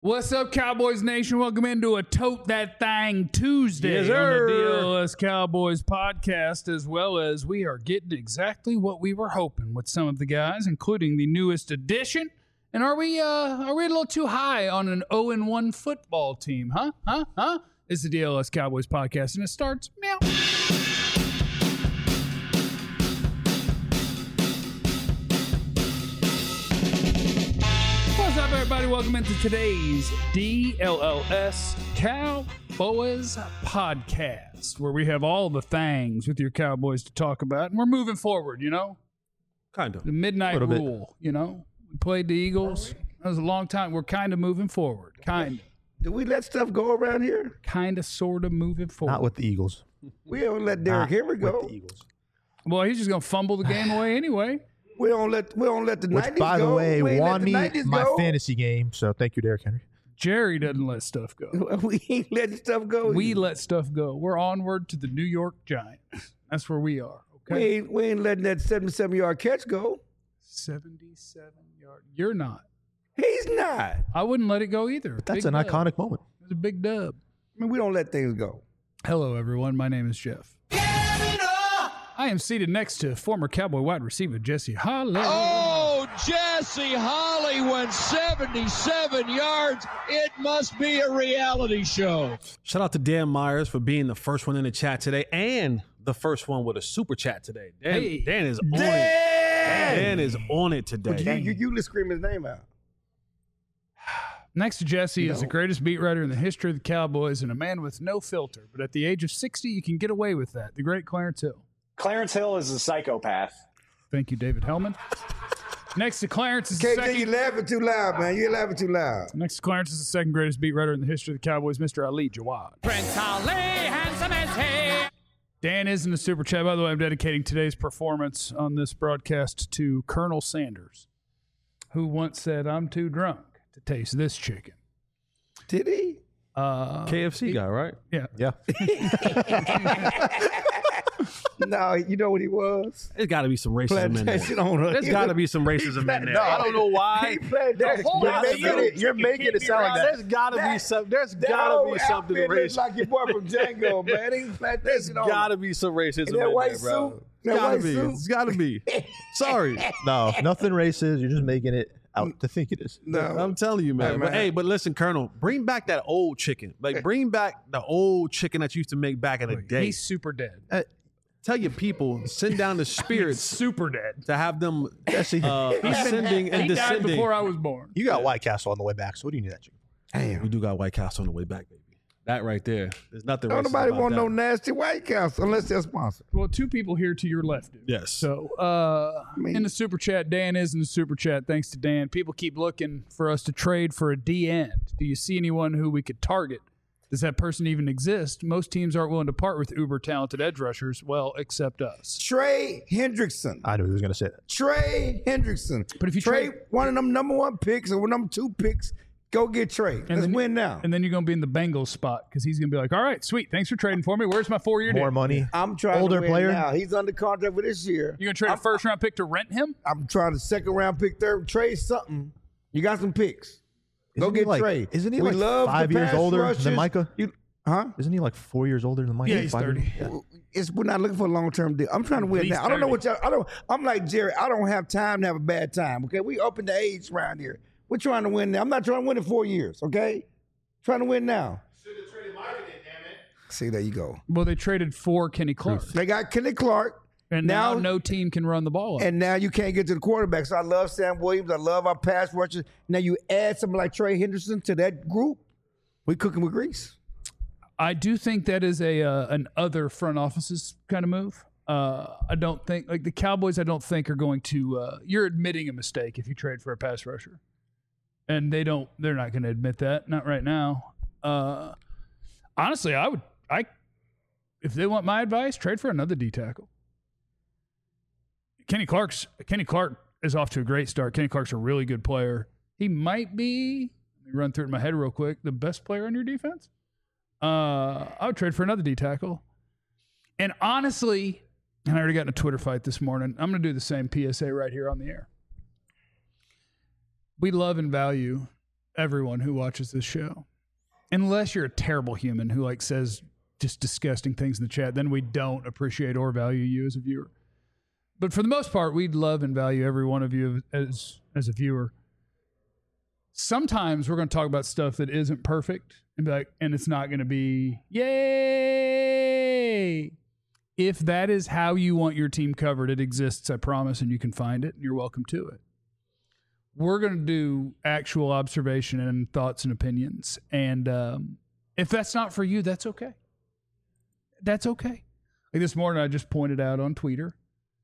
What's up, Cowboys Nation? Welcome into a Tote That Thang Tuesday Yes, on sir. the DLS Cowboys podcast, as well as we are getting exactly what we were hoping with some of the guys, including the newest addition. And are we a little too high on an 0-1 football team? Huh? It's the DLS Cowboys podcast, and it starts meow. What's up, everybody? Welcome into today's DLLS Cowboys podcast, where we have all the things with your Cowboys to talk about, and we're moving forward, you know? Kind of. The midnight Little bit. rule, you know? We played the Eagles. That was a long time. We're kind of moving forward. Do we let stuff go around here? Kind of, sort of moving forward. Not with the Eagles. We don't let Derrick Henry With go. the Eagles. Well, he's just going to fumble the game away anyway. We don't let the Which, 90s by go. the way, We ain't won me let the 90s my go. fantasy game. So thank you, Derrick Henry. Jerry doesn't let stuff go. We ain't letting stuff go. We let stuff go. We're onward to the New York Giants. That's where we are, we okay? ain't letting that 77-yard catch go. 77 yard. You're not. He's not. I wouldn't let it go either. That's Big an dub. iconic moment. It was a big dub. I mean, we don't let things go. Hello, everyone. My name is Jeff. I am seated next to former Cowboy wide receiver Jesse Holly. Oh, Jesse Holly went 77 yards. It must be a reality show. Shout out to Dan Myers for being the first one in the chat today and the first one with a super chat today. Dan is on it. Dan is on it today. You let's scream his name out. Next to Jesse is the greatest beat writer in the history of the Cowboys and a man with no filter. But at the age of 60, you can get away with that. The great Clarence Hill. Clarence Hill is a psychopath. Thank you, David Hellman. Next to Clarence is the KJ, second. you laughing too loud, man. You're laughing too loud. Next to Clarence is the second greatest beat writer in the history of the Cowboys, Mr. Ali Jawad. Prince Ali, handsome as he. Dan is in the super chat. By the way, I'm dedicating today's performance on this broadcast to Colonel Sanders, who once said, "I'm too drunk to taste this chicken." Did he? KFC guy, right? Yeah. Yeah. No, you know what he was? There's got to be some racism in there. Plantation owner. There's got to be some racism in there. No. I don't know why. You're making it sound like that. There's got to be some. There's got to be something It's racist. like your boy from Django, man. He's There's plantation owner. got to be some racism And that in white there, bro. suit, that Gotta white be. suit. It's got to be. Sorry. No, nothing racist. You're just making it out to think it is. No. I'm telling you, man. Hey, But man. hey, but listen, Colonel, bring back that old chicken. Like, bring back the old chicken that you used to make back in the day. He's super dead. Tell your people, send down the spirits Super dead. to have them Jesse, ascending and He died descending. before I was born. you got White Castle on the way back. So what do you need that chicken? Damn. We do got White Castle on the way back, baby. That right there. There's nothing Don't racist nobody about want that. no nasty White Castle unless they're sponsored. Well, two people here to your left. Dude. Yes. So, in the super chat, Dan is in the super chat. Thanks to Dan. People keep looking for us to trade for a D end. Do you see anyone who we could target? Does that person even exist? Most teams aren't willing to part with uber talented edge rushers. Well, except us. Trey Hendrickson. I knew he was going to say that. Trey Hendrickson. But if you trade trade- one of them number one picks or number two picks, go get Trey. Let's then- win now. And then you're going to be in the Bengals spot because he's going to be like, all right, sweet. Thanks for trading for me. Where's my 4-year deal? More money. I'm trying Older to win player? now. He's under contract for this year. You're going to trade a first round pick to rent him? I'm trying to second round pick, third, trade something. You got some picks. Go Isn't he get like- Trey. isn't he We like love 5 the years pass older than rushers. Micah? Huh? Isn't he like 4 years older than Mike? Yeah, he's 5 years? 30. Yeah. We're not looking for a long-term deal. I'm trying to win He's now. I don't know 30. what y'all. I'm like Jerry. I don't have time to have a bad time. Okay, we up in the age around here. We're trying to win now. I'm not trying to win in 4 years. Okay, trying to win now. Should have traded Mike in, damn it. See, there you go. Well, they traded for Kenny Clark. They got Kenny Clark, And now no team can run the ball up. and now you can't get to the quarterback. So I love Sam Williams. I love our pass rushers. Now you add something like Trey Henderson to that group. We cooking with grease. I do think that is an other front offices kind of move. I don't think like the Cowboys. I don't think are going to. You're admitting a mistake if you trade for a pass rusher, and they don't. They're not going to admit that. Not right now. Honestly, if they want my advice, trade for another D tackle. Kenny Clark is off to a great start. Kenny Clark's a really good player. He might be. Let me run through it in my head real quick. The best player on your defense. I would trade for another D tackle. And honestly, and I already got in a Twitter fight this morning. I'm going to do the same PSA right here on the air. We love and value everyone who watches this show. Unless you're a terrible human who like says just disgusting things in the chat, then we don't appreciate or value you as a viewer. But for the most part, we'd love and value every one of you as a viewer. Sometimes we're going to talk about stuff that isn't perfect and be like, and it's not going to be yay. If that is how you want your team covered, it exists, I promise, and you can find it, and you're welcome to it. We're going to do actual observation and thoughts and opinions. And if that's not for you, that's okay. That's okay. Like this morning, I just pointed out on Twitter,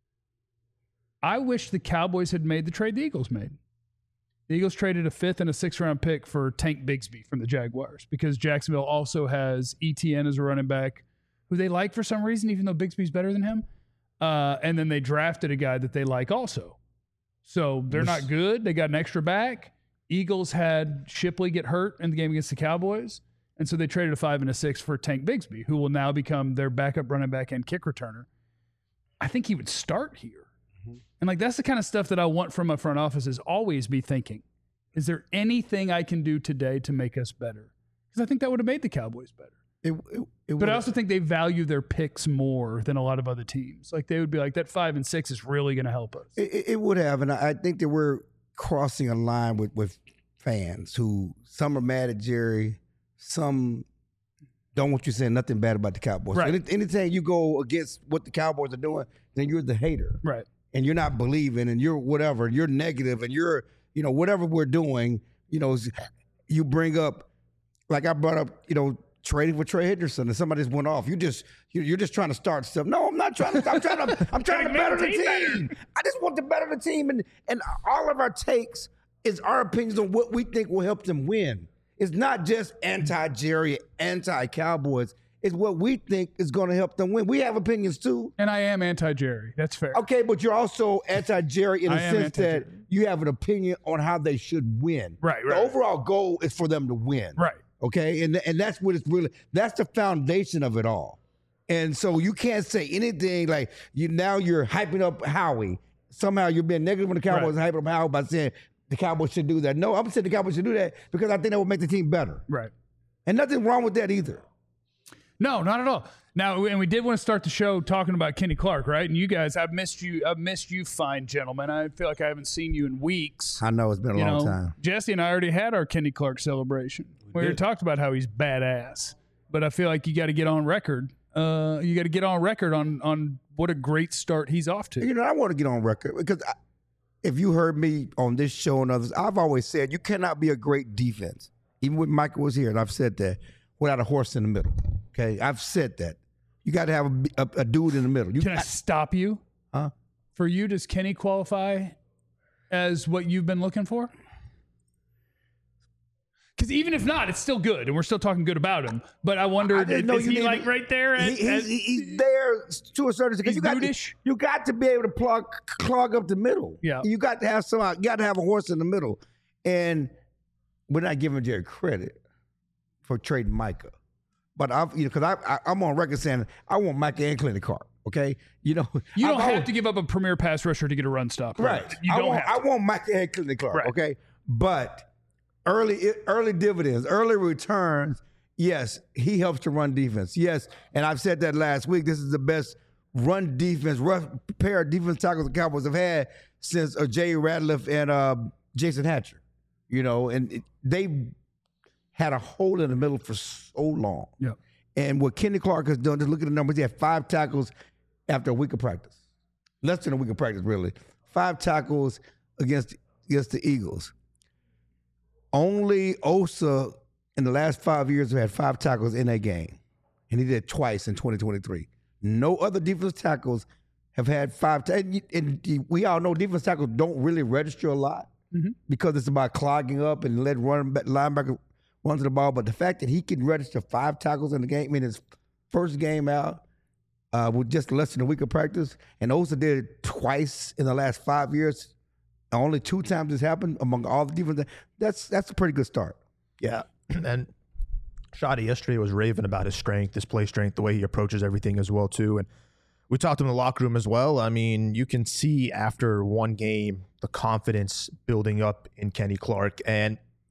I wish the Cowboys had made the trade the Eagles made. The Eagles traded a 5th and a 6th round pick for Tank Bigsby from the Jaguars because Jacksonville also has ETN as a running back who they like for some reason, even though Bigsby's better than him. And then they drafted a guy that they like also. So they're not good. They got an extra back. Eagles had Shipley get hurt in the game against the Cowboys. And so they traded a 5 and a 6 for Tank Bigsby, who will now become their backup running back and kick returner. I think he would start here. And like that's the kind of stuff that I want from a front office is always be thinking, is there anything I can do today to make us better? Because I think that would have made the Cowboys better. But I also think they value their picks more than a lot of other teams. Like they would be like, that 5 and 6 is really going to help us. It would have. And I think that we're crossing a line with fans who some are mad at Jerry, some don't want you saying nothing bad about the Cowboys. Right. So anytime you go against what the Cowboys are doing, then you're the hater. Right. And you're not believing and you're whatever, you're negative and you're, whatever we're doing, you bring up, like I brought up, trading for Trey Henderson and somebody just went off. You're just trying to start stuff. No, I'm not trying to. I'm trying to better the team. I just want to better the team, and all of our takes is our opinions on what we think will help them win. It's not just anti-Jerry, anti-Cowboys. It's what we think is going to help them win. We have opinions too. And I am anti-Jerry. That's fair. Okay, but you're also anti-Jerry in the sense that you have an opinion on how they should win. Right. The overall goal is for them to win. Right. Okay, and that's what it's really, that's the foundation of it all. And so you can't say anything like you're hyping up Howie. Somehow you're being negative on the Cowboys and hyping up Howie by saying the Cowboys should do that. No, I'm saying the Cowboys should do that because I think that would make the team better. Right. And nothing wrong with that either. No, not at all. Now, and we did want to start the show talking about Kenny Clark, right? And you guys, I've missed you, fine gentlemen. I feel like I haven't seen you in weeks. I know it's been a long time. Jesse and I already had our Kenny Clark celebration. We already talked about how he's badass, but I feel like you got to get on record. You got to get on record on what a great start he's off to. I want to get on record because if you heard me on this show and others, I've always said you cannot be a great defense. Even when Michael was here, and I've said that, without a horse in the middle. Okay, I've said that. You got to have a dude in the middle. Can I stop you? Huh? For you, does Kenny qualify as what you've been looking for? Because even if not, it's still good, and we're still talking good about him. But I wonder, is he like right there? He's there to a certain extent. You got to be able to clog up the middle. Yeah, you got to have you got to have a horse in the middle, and we're not giving Jerry credit for trading Micah. But I'm on record saying I want Micah and Kenny Clark. Okay, you don't have to give up a premier pass rusher to get a run stop. Right. I want Micah and Kenny Clark. Right. Okay, but early dividends, early returns. Yes, he helps to run defense. Yes, and I've said that last week. This is the best run defense, pair of defense tackles the Cowboys have had since Jay Ratliff and Jason Hatcher. And they had a hole in the middle for so long. Yeah. And what Kenny Clark has done, just look at the numbers, he had 5 tackles after a week of practice. Less than a week of practice, really. 5 tackles against the Eagles. Only Osa in the last 5 years have had 5 tackles in a game. And he did twice in 2023. No other defensive tackles have had 5 tackles. And we all know defensive tackles don't really register a lot because it's about clogging up and let linebacker run to the ball. But the fact that he can register 5 tackles in the game, his first game out with just less than a week of practice, and Osa did it twice in the last 5 years. Only 2 times this happened among all the defense. That's a pretty good start. Yeah, and Shadi yesterday was raving about his strength, his play strength, the way he approaches everything as well too. And we talked to him in the locker room as well. I mean, you can see after one game the confidence building up in Kenny Clark, and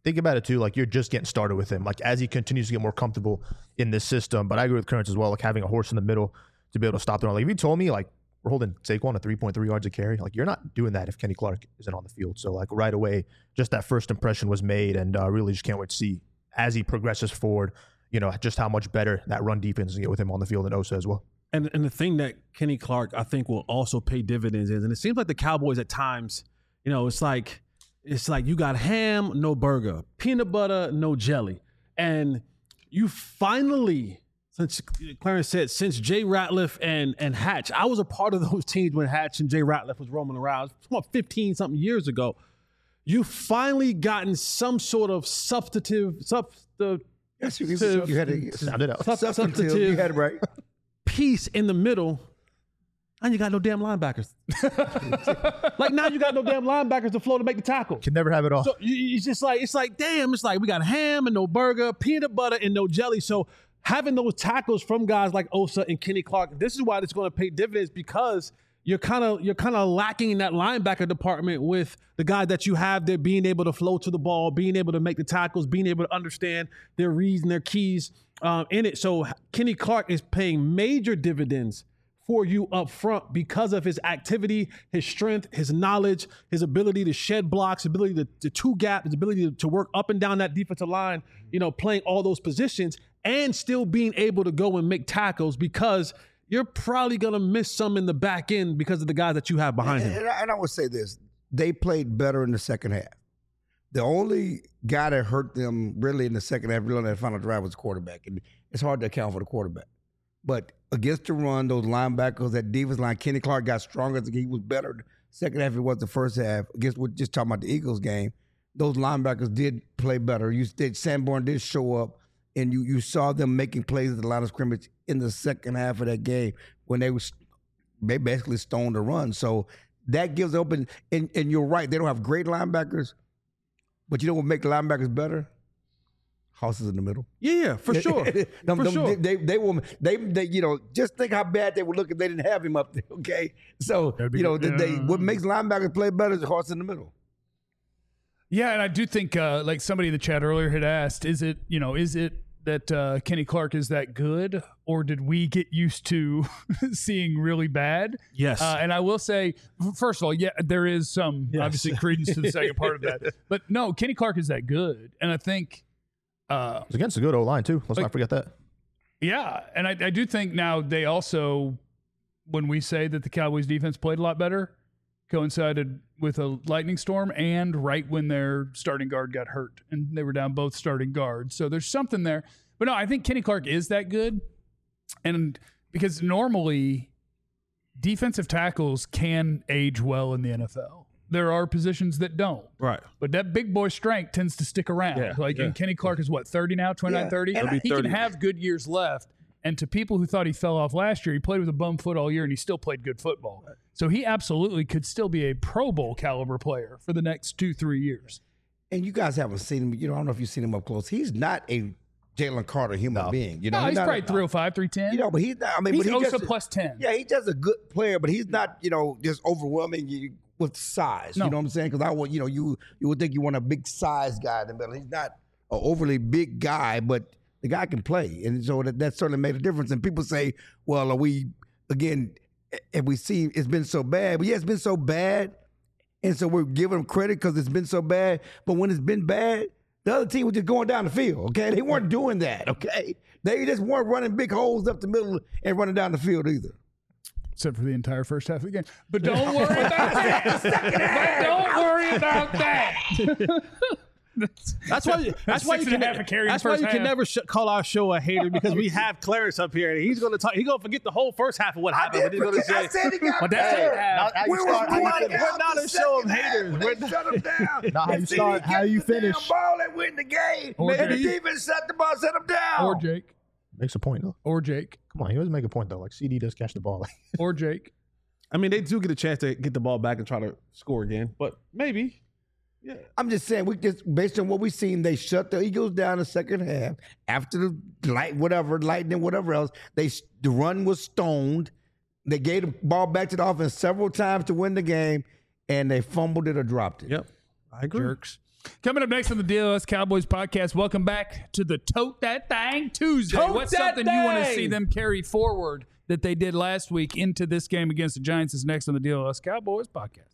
think about it too. Like, you're just getting started with him. Like, as he continues to get more comfortable in this system. But I agree with Currents as well. Like, having a horse in the middle to be able to stop the run. Like, if you told me like we're holding Saquon at 3.3 yards a carry, like, you're not doing that if Kenny Clark isn't on the field. So like right away, just that first impression was made, and really just can't wait to see as he progresses forward. Just how much better that run defense can get with him on the field, and Osa as well. And the thing that Kenny Clark, I think, will also pay dividends is, and it seems like the Cowboys at times, it's like you got ham, no burger, peanut butter, no jelly. And you finally, since Clarence said, since Jay Ratliff and Hatch, I was a part of those teams when Hatch and Jay Ratliff was roaming around, about 15-something years ago. You finally gotten some sort of substantive. Yes, you had it. Sounded out. Substantive. You had it right. Piece in the middle, and you got no damn linebackers. Like, now you got no damn linebackers to flow to make the tackle. Can never have it all. So it's like damn. It's like we got ham and no burger, peanut butter and no jelly. So having those tackles from guys like Osa and Kenny Clark, this is why it's going to pay dividends, because you're kind of lacking in that linebacker department with the guys that you have there being able to flow to the ball, being able to make the tackles, being able to understand their reads and their keys in it. So Kenny Clark is paying major dividends for you up front because of his activity, his strength, his knowledge, his ability to shed blocks, his ability to two-gap, his ability to work up and down that defensive line, playing all those positions and still being able to go and make tackles, because you're probably going to miss some in the back end because of the guys that you have behind him. And I would say this. They played better in the second half. The only guy that hurt them really in the second half, really on that final drive, was the quarterback. And it's hard to account for the quarterback. But against the run, those linebackers, that defense line, Kenny Clark got stronger. He was better the second half than it was the first half. Against, we're just talking about the Eagles game, those linebackers did play better. Sanborn did show up, and you saw them making plays at the line of scrimmage in the second half of that game when they basically stoned the run. So that gives open, and you're right, they don't have great linebackers, but you know what make linebackers better? Houses in the middle. Yeah, for sure. They will. Just think how bad they would look if they didn't have him up there. Okay, so what makes linebackers play better is horse in the middle. Yeah, and I do think, like somebody in the chat earlier had asked, is it that Kenny Clark is that good, or did we get used to seeing really bad? Yes. And I will say, first of all, yeah, there is some obviously credence to the second part of that, but no, Kenny Clark is that good, and I think. It's against a good O-line too. Let's not forget that. Yeah, and I do think now they also, when we say that the Cowboys defense played a lot better, coincided with a lightning storm and right when their starting guard got hurt, and they were down both starting guards. So there's something there. But no, I think Kenny Clark is that good, and because normally defensive tackles can age well in the NFL. There are positions that don't. Right. But that big boy strength tends to stick around. And Kenny Clark is what, 30 now, 29, 30? He can have good years left. And to people who thought he fell off last year, he played with a bum foot all year and he still played good football. So he absolutely could still be a Pro Bowl caliber player for the next 2-3 years. And you guys haven't seen him. I don't know if you've seen him up close. He's not a Jalen Carter human being. He's probably 305, 310. But he's not. He's but also plus 10. Yeah, he's just a good player, but he's not, just overwhelming you with size. No. You know what I'm saying? Because I want, you would think you want a big size guy in the middle. He's not an overly big guy, but the guy can play. And so that certainly made a difference. And people say, well, have we seen it's been so bad? But yeah, it's been so bad. And so we're giving them credit because it's been so bad. But when it's been bad, the other team was just going down the field, okay? They weren't doing that, okay? They just weren't running big holes up the middle and running down the field either. Except for the entire first half of the game. But don't worry about that. But don't worry about that. That's why you can never call our show a hater, because we have Clarence up here and he's going to talk. He's going to forget the whole first half of what happened. But he's going to say, we're not a show of haters. Shut them down. Not how you start, how you finish. Ball and win the game. And the defense set the ball, set them down. Or Jake. Makes a point, though. Or Jake. Come on, he always make a point, though. Like, CD does catch the ball. Or Jake. I mean, they do get a chance to get the ball back and try to score again, but maybe. Yeah. I'm just saying, based on what we've seen, they shut the Eagles down the second half. After the lightning, whatever else, the run was stoned. They gave the ball back to the offense several times to win the game, and they fumbled it or dropped it. Yep. I agree. Jerks. Coming up next on the DLS Cowboys podcast, welcome back to the Tote That Thing Tuesday. Tote What's that something you want to thing! see them carry forward that they did last week into this game against the Giants is next on the DLS Cowboys podcast.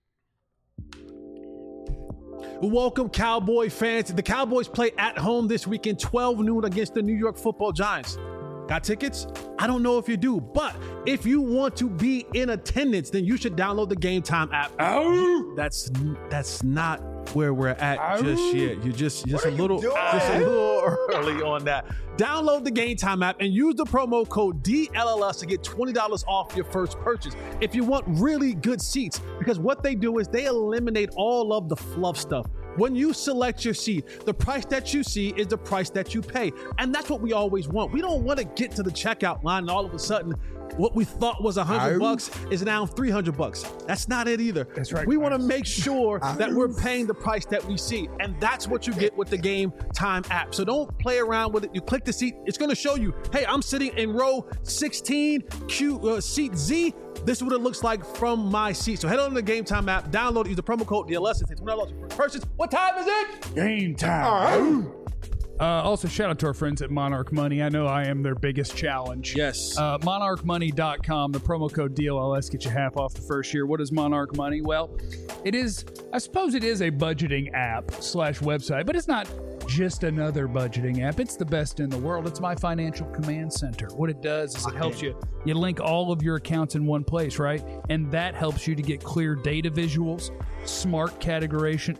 Welcome, Cowboy fans. The Cowboys play at home this weekend, 12 noon against the New York Football Giants. Got tickets? I don't know if you do, but if you want to be in attendance, then you should download the Game Time app. That's not where we're at just yet. You're just a little early on that. Download the Game Time app and use the promo code DLLS to get $20 off your first purchase if you want really good seats, because what they do is they eliminate all of the fluff stuff. When you select your seat, the price that you see is the price that you pay. And that's what we always want. We don't want to get to the checkout line and all of a sudden what we thought was $100 is now $300. That's not it either. That's right. We want to make sure that we're paying the price that we see. And that's what you get with the Game Time app. So don't play around with it. You click the seat. It's going to show you, hey, I'm sitting in row 16, seat Z. This is what it looks like from my seat. So head on to the Game Time app, download it, use the promo code DLS, and take $20 for purchase. What time is it? Game time. Also, shout out to our friends at Monarch Money. I know I am their biggest challenge. Yes. MonarchMoney.com. The promo code DLLS gets you half off the first year. What is Monarch Money? Well, I suppose it is a budgeting app / website, but it's not just another budgeting app. It's the best in the world. It's my financial command center. What it does is it helps you link all of your accounts in one place, right? And that helps you to get clear data visuals, smart categorization.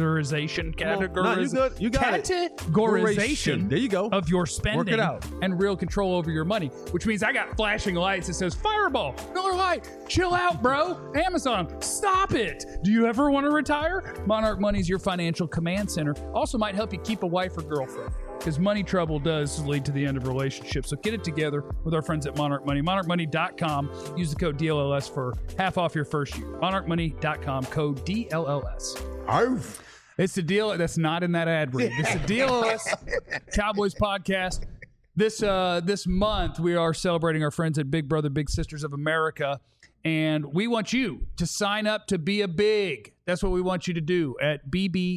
You got it. Categorization. There you go. Of your spending. Work it out. And real control over your money, which means I got flashing lights that says Fireball, Miller Lite, chill out, bro. Amazon, stop it. Do you ever want to retire? Monarch Money is your financial command center. Also might help you keep a wife or girlfriend, because money trouble does lead to the end of relationships. So get it together with our friends at Monarch Money. MonarchMoney.com. Use the code DLLS for half off your first year. MonarchMoney.com, code DLLS. It's the deal that's not in that ad read. It's the DLLS Cowboys podcast. This month, we are celebrating our friends at Big Brother, Big Sisters of America. And we want you to sign up to be a big. That's what we want you to do at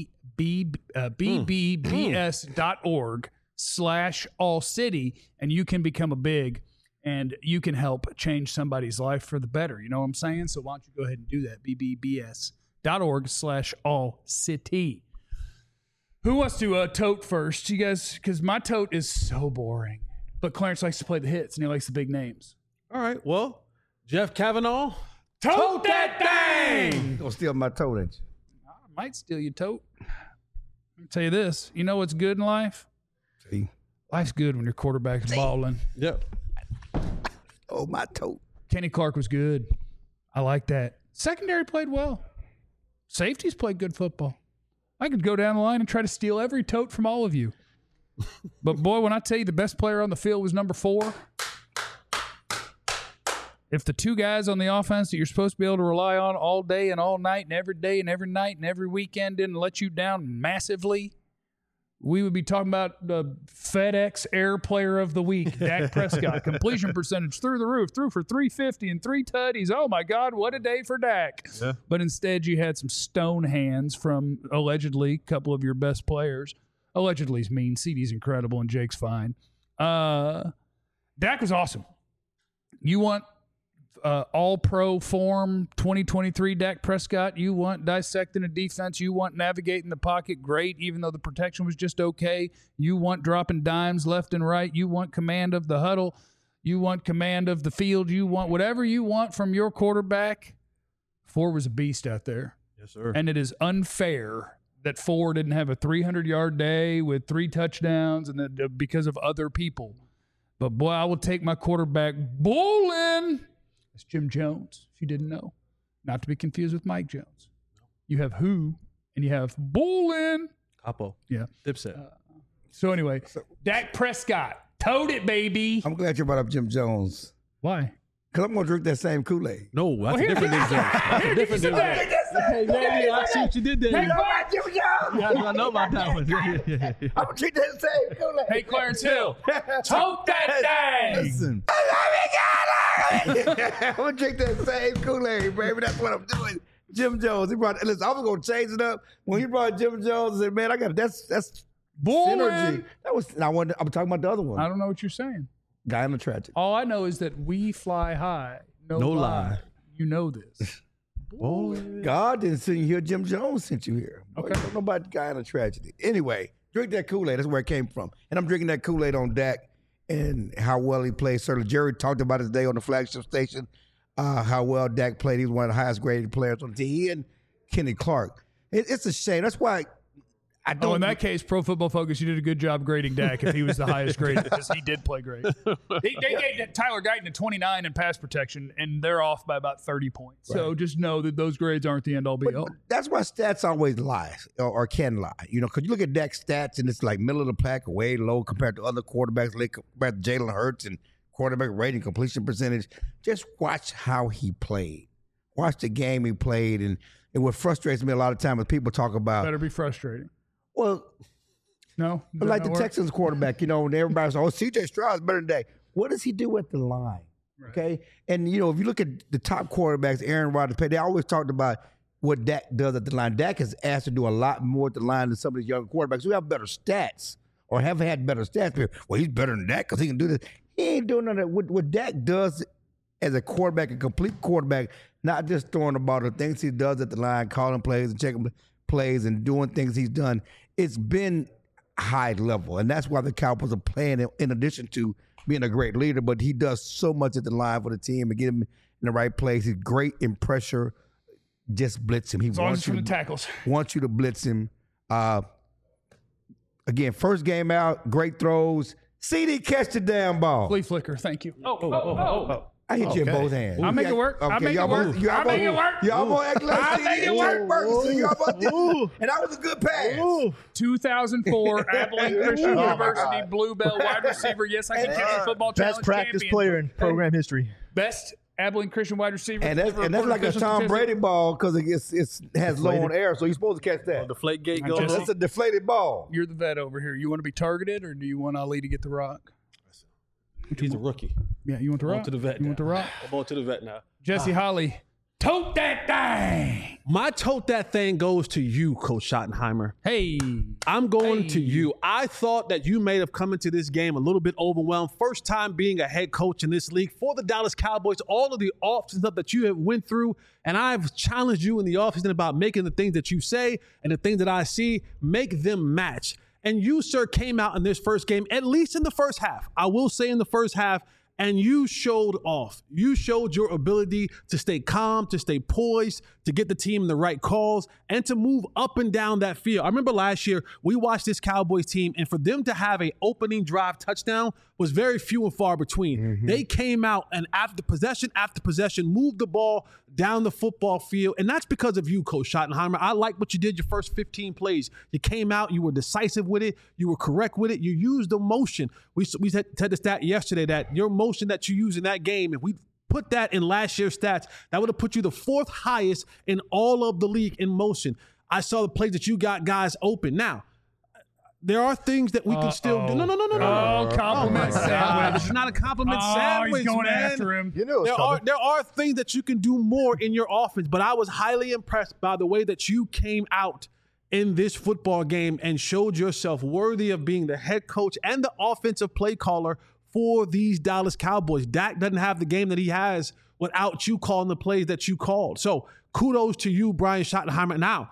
bbbs.org/all-city, and you can become a big, and you can help change somebody's life for the better. You know what I'm saying? So why don't you go ahead and do that? bbbs.org/all-city. Who wants to tote first? You guys, because my tote is so boring. But Clarence likes to play the hits, and he likes the big names. All right. Well, Jeff Kavanaugh. Tote that thing! Don't steal my tote, ain't you? I might steal your tote. I'll tell you this. You know what's good in life? See? Life's good when your quarterback's balling. Yep. Oh, my tote. Kenny Clark was good. I like that. Secondary played well. Safeties played good football. I could go down the line and try to steal every tote from all of you. But, boy, when I tell you the best player on the field was number 4, if the two guys on the offense that you're supposed to be able to rely on all day and all night and every day and every night and every weekend didn't let you down massively, we would be talking about the FedEx Air Player of the Week, Dak Prescott. Completion percentage through the roof, threw for 350 and 3 tutties. Oh, my God, what a day for Dak. Yeah. But instead you had some stone hands from allegedly a couple of your best players. Allegedly's mean. CeeDee's incredible and Jake's fine. Dak was awesome. You want all-pro form 2023 Dak Prescott. You want dissecting a defense. You want navigating the pocket great, even though the protection was just okay. You want dropping dimes left and right. You want command of the huddle. You want command of the field. You want whatever you want from your quarterback. Ford was a beast out there. Yes, sir. And it is unfair that Ford didn't have a 300-yard day with 3 touchdowns and that because of other people. But, boy, I will take my quarterback bowling. It's Jim Jones, if you didn't know. Not to be confused with Mike Jones. You have who, and you have bowling. Capo. Yeah. Dipset. So, anyway, Dak Prescott. Tote it, baby. I'm glad you brought up Jim Jones. Why? Because I'm going to drink that same Kool-Aid. No, that's a different Jim Jones. That's a different Jim Jones. Yeah, I see what you did there. You know about Jim Jones? Yeah, I know about that one. I'm going to drink that same Kool-Aid. Hey, Clarence Hill. Tote that thing. Listen. I'm going to drink that same Kool-Aid, baby. That's what I'm doing. Jim Jones. Listen, I was gonna change it up when he brought Jim Jones. I said, man, I got that's Boy. synergy. I'm talking about the other one. I don't know what you're saying. Guy in the tragic. All I know is that we fly high. No lie. You know this. God didn't send you here. Jim Jones sent you here. Okay. Don't know about the guy in a tragedy. Anyway, drink that Kool-Aid. That's where it came from. And I'm drinking that Kool-Aid on Dak and how well he played. Certainly, Jerry talked about it today on the flagship station, how well Dak played. He was one of the highest graded players on the team. He and Kenny Clark. It's a shame. That's why I don't. Oh, in that case, Pro Football Focus, you did a good job grading Dak if he was the highest graded because he did play great. They gave Tyler Guyton a 29 in pass protection, and they're off by about 30 points. Right. So just know that those grades aren't the end-all be-all. That's why stats always lie or can lie. You know, because you look at Dak's stats, and it's like middle of the pack, way low compared to other quarterbacks, compared to Jalen Hurts and quarterback rating, completion percentage. Just watch how he played. Watch the game he played, and what frustrates me a lot of times is people talk about. Better be frustrating. Well, no, like the Texans quarterback, you know, and everybody's like, C.J. Stroud's better than Dak. What does he do at the line? Right. Okay, and you know, if you look at the top quarterbacks, Aaron Rodgers, they always talked about what Dak does at the line. Dak is asked to do a lot more at the line than some of these young quarterbacks who have better stats or have had better stats. Well, he's better than Dak because he can do this. He ain't doing none of that. What Dak does as a quarterback, a complete quarterback, not just throwing the ball, the things he does at the line, calling plays and checking plays and doing things he's done, it's been high level. And that's why the Cowboys are playing in addition to being a great leader, but he does so much at the line for the team and get him in the right place. He's great in pressure. Just blitz him. He wants you to tackles. Wants you to blitz him. Again, first game out, great throws. CD catch the damn ball. Flea flicker, thank you. I hit you in both hands. I'll make it work. Okay, I'll make it work. I'll make it work. Y'all gonna act like I'll make it work. And that was a good pass. 2004 Abilene Christian University Bluebell wide receiver. Yes, I can catch a football challenge Best practice champion. player in program history. Best Abilene Christian wide receiver. And that's like a Tom Brady ball because it has low on air, so you're supposed to catch that. Deflate gate goes. That's a deflated ball. You're the vet over here. You want to be targeted, or do you want Ali to get the rock? He's a rookie. Yeah, you want the rock? To the vet. You want the rock? I'm on to the vet now. Jesse Holly, tote that thing. My tote that thing goes to you, Coach Schottenheimer. Hey. I'm going to you. I thought that you may have come into this game a little bit overwhelmed. First time being a head coach in this league for the Dallas Cowboys. All of the offseason stuff that you have went through, and I've challenged you in the offseason about making the things that you say and the things that I see, make them match. And you, sir, came out in this first game, at least in the first half. I will say in the first half, and you showed off. You showed your ability to stay calm, to stay poised, to get the team in the right calls, and to move up and down that field. I remember last year, we watched this Cowboys team, and for them to have an opening drive touchdown was very few and far between. Mm-hmm. They came out and after possession, moved the ball down the football field, and that's because of you, Coach Schottenheimer. I like what you did your first 15 plays. You came out, you were decisive with it, you were correct with it, you used the motion. We said the stat yesterday that your motion that you used in that game, if we put that in last year's stats, that would have put you the fourth highest in all of the league in motion. I saw the plays that you got guys open. Now, there are things that we can still do. No. Oh, compliment sandwich. This is not a compliment sandwich, he's going man. after him. You knew there are things that you can do more in your offense, but I was highly impressed by the way that you came out in this football game and showed yourself worthy of being the head coach and the offensive play caller for these Dallas Cowboys. Dak doesn't have the game that he has without you calling the plays that you called. So kudos to you, Brian Schottenheimer. Now,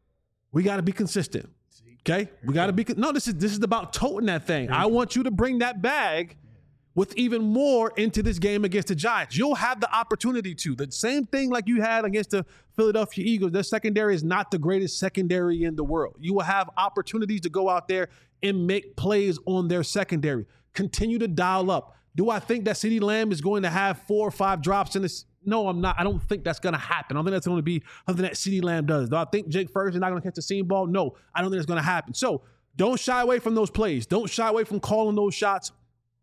we got to be consistent. Okay? We got to be this is about toting that thing. I want you to bring that bag with even more into this game against the Giants. You'll have the opportunity to. The same thing like you had against the Philadelphia Eagles. Their secondary is not the greatest secondary in the world. You will have opportunities to go out there and make plays on their secondary. Continue to dial up. Do I think that CeeDee Lamb is going to have 4 or 5 drops in this? No, I'm not. I don't think that's going to happen. I don't think that's going to be something that CeeDee Lamb does. Do I think Jake Ferguson is not going to catch the seam ball? No, I don't think it's going to happen. So don't shy away from those plays. Don't shy away from calling those shots.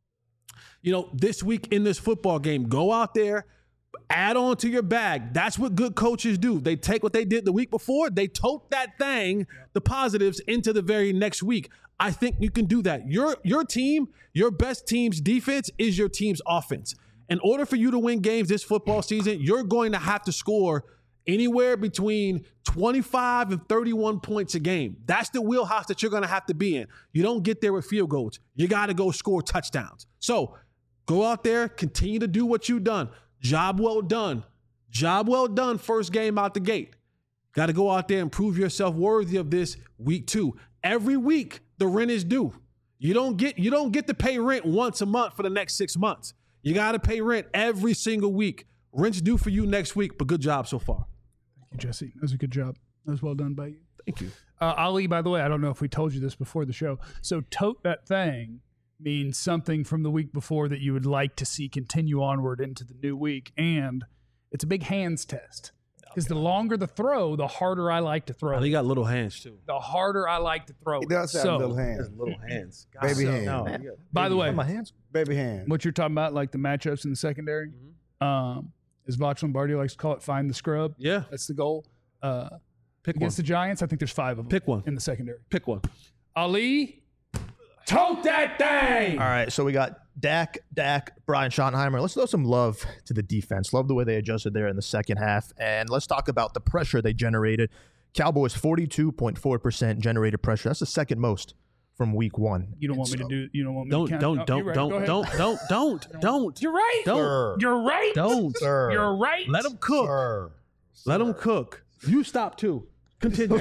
You know, this week in this football game, go out there, add on to your bag. That's what good coaches do. They take what they did the week before, they tote that thing, the positives, into the very next week. I think you can do that. Your team, your best team's defense is your team's offense. In order for you to win games this football season, you're going to have to score anywhere between 25 and 31 points a game. That's the wheelhouse that you're going to have to be in. You don't get there with field goals. You got to go score touchdowns. So go out there, continue to do what you've done. Job well done. Job well done first game out the gate. Got to go out there and prove yourself worthy of this week 2. Every week, the rent is due. You don't get to pay rent once a month for the next 6 months. You got to pay rent every single week. Rent's due for you next week, but good job so far. Thank you, Jesse. That was a good job. That was well done by you. Thank you. Ali, by the way, I don't know if we told you this before the show. So tote that thing means something from the week before that you would like to see continue onward into the new week. And it's a big hands test. Because the longer the throw, the harder I like to throw. He got little hands, too. The harder I like to throw. He does have little hands. Little hands. Baby hands. No, by the way, my hands. Baby hands. what you're talking about, like the matchups in the secondary, as Voch Lombardi likes to call it, find the scrub. Yeah. That's the goal. Pick Against one. the Giants, I think there's 5 of them. Pick one. In the secondary. Pick one. Ali, tote that thing. All right, so we got Dak, Brian Schottenheimer. Let's throw some love to the defense. Love the way they adjusted there in the second half. And let's talk about the pressure they generated. Cowboys 42.4% generated pressure. That's the second most from week 1. You don't want me to do. You don't want me to count. Don't. You're right. Go ahead. Don't. You're right. Don't. You're right. Don't. Sir. You're right. Let him cook. Sir. Let him cook. You stop too. Continue.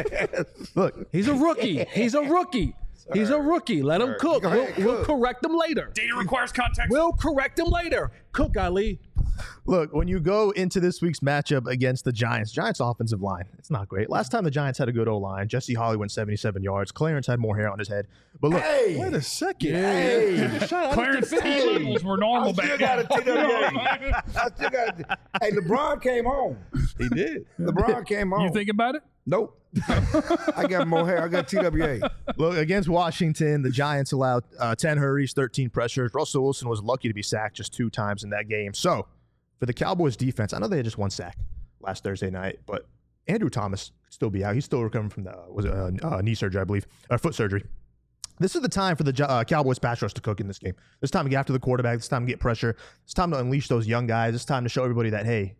Look, He's a rookie. He's a rookie. He's a rookie. Let him cook. Go ahead, We'll cook. correct him later. Data requires context. We'll correct him later. Cook, Ali. Look, when you go into this week's matchup against the Giants offensive line, it's not great. Last time the Giants had a good O-line, Jesse Holly went 77 yards. Clarence had more hair on his head. But look, Hey, Wait a second. Hey. Clarence T levels were normal I back still got a then. TWA. I still got a Hey, LeBron came home. He did. LeBron came home. You think about it? Nope. I got more hair. I got TWA. look, against Washington, the Giants allowed 10 hurries, 13 pressures. Russell Wilson was lucky to be sacked just 2 times in that game. So, for the Cowboys defense, I know they had just 1 sack last Thursday night, but Andrew Thomas could still be out. He's still recovering from the knee surgery, I believe, foot surgery. This is the time for the Cowboys pass rush to cook in this game. This time to get after the quarterback. This time to get pressure. It's time to unleash those young guys. It's time to show everybody that, hey,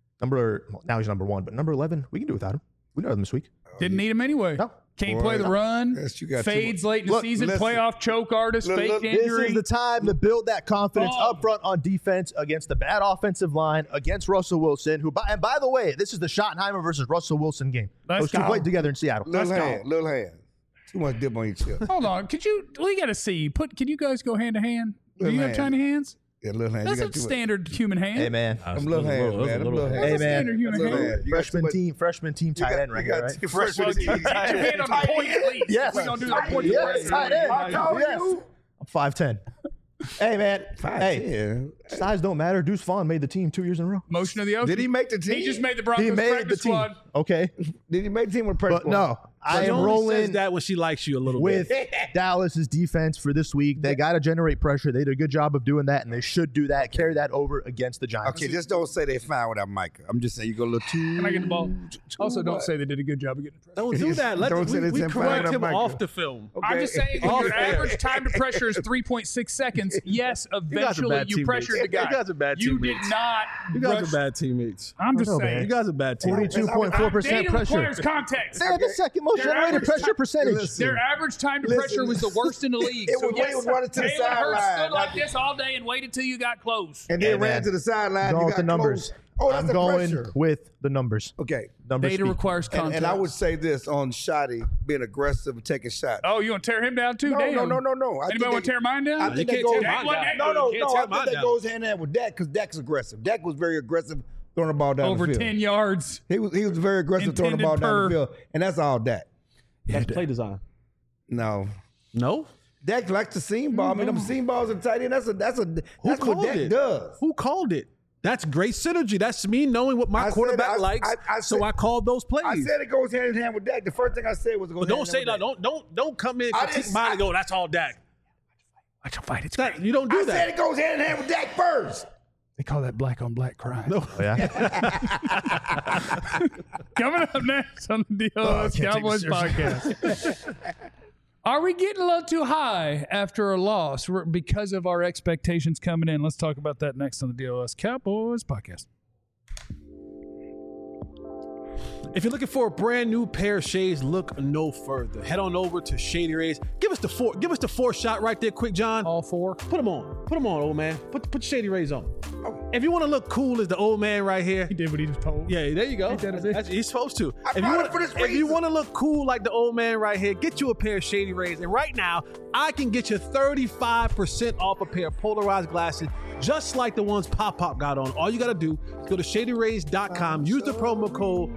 now he's number 1, but number 11, we can do without him. We know him this week. Didn't need him anyway. No. Can't Boy, play the run. yes, you got Fades too- late in the Look, season. listen. Playoff choke artist. Look, Fake look, This injury. is the time to build that confidence Oh. up front on defense against the bad offensive line, against Russell Wilson, and by the way, this is the Schottenheimer versus Russell Wilson game. Let's Those two go. played together in Seattle. Little hand. Little hand. Too much dip on your chip. Hold on. We got to see. Can you guys go hand to hand? Do you Little have hand. tiny hands? Yeah, little hand. That's you a got too much. standard human hand. Hey, man. Them little hands, man. Them little hands. Hey, man. Standard human Little hand. hand. You got too much- Freshman team tight end right you here, got right? too- Well, freshman get team your tight end. hand on the point at least. Yes. We're going to do the point. Yes, tight end. How tall are Yes. you? I'm 5'10". Hey, man. Hey, 5'10". size don't matter. Deuce Vaughn made the team 2 years in a row. Motion of the ocean. Did he make the team? He just made the Broncos He made the practice team. squad. Okay. Did he make the team with pressure? But no, I She am only says rolling that when she likes you a little with bit. Dallas's defense for this week. They got to generate pressure. They did a good job of doing that, and they should do that. Carry that over against the Giants. Okay, just don't say they fine without Micah. I'm just saying you go a little too. Can I get the ball? Also, don't say they did a good job of getting pressure. Don't do that. Don't say We it's in correct front of him Micah. off the film. I'm just saying, when Off your air. average time to pressure is 3.6 seconds, yes, guys are eventually bad you teammates. pressured the guy. You guys are bad You did teammates. not. You guys rush- are bad teammates. I'm just know, saying. man. You guys are bad teammates. 42.4% Data pressure. requires context. They had the second most Their generated average pressure time- percentage. Their average time to Listen. pressure was the worst in the league. It So was when he was running to the Jalen Hurts sideline. stood like this all day and waited till you got close. And then Hey, ran man. to the sideline. Go You with got the numbers. close. Oh, that's I'm the going pressure. with the numbers. Okay. Numbers Data speak. requires context. And I would say this on Shotty being aggressive and taking shots. Oh, you want to tear him down too? No, Damn. no. I Anybody think want to tear mine down? I You think that can't goes. tear Dak mine wasn't down. that No, You no, can't no. tear I mine think that down. goes hand in hand with Dak because Dak's aggressive. Dak was very aggressive throwing the ball down Over the field. 10 yards. He was very aggressive throwing the ball Intended down the per- field, and that's all Dak. That's play design. No. No? Dak likes the seam ball. I mean, them seam balls are tight end. That's what called Dak it? does. Who called it? That's great synergy. That's me knowing what my I said- quarterback likes. I so said- I called those plays. I said it goes hand in hand with Dak. The first thing I said was it goes but hand don't say in that. hand with Dak. Don't come in I critique didn't- mine and go, that's all Dak. I can fight. It's That, you don't do I said that. it goes hand in hand with Dak first. They call that black on black crime. No. Oh, yeah. Coming up next on the DLS Cowboys podcast. Are we getting a little too high after a loss because of our expectations coming in? Let's talk about that next on the DLS Cowboys podcast. If you're looking for a brand new pair of shades, look no further. Head on over to Shady Rays. Give us the four shot right there, quick, John. All four. Put them on, old man. Put Shady Rays on. If you want to look cool as the old man right here. He did what he was told. Yeah, there you go. He's supposed to. If you want to look cool like the old man right here, get you a pair of Shady Rays. And right now, I can get you 35% off a pair of polarized glasses, just like the ones Pop got on. All you got to do is go to ShadyRays.com, use the promo code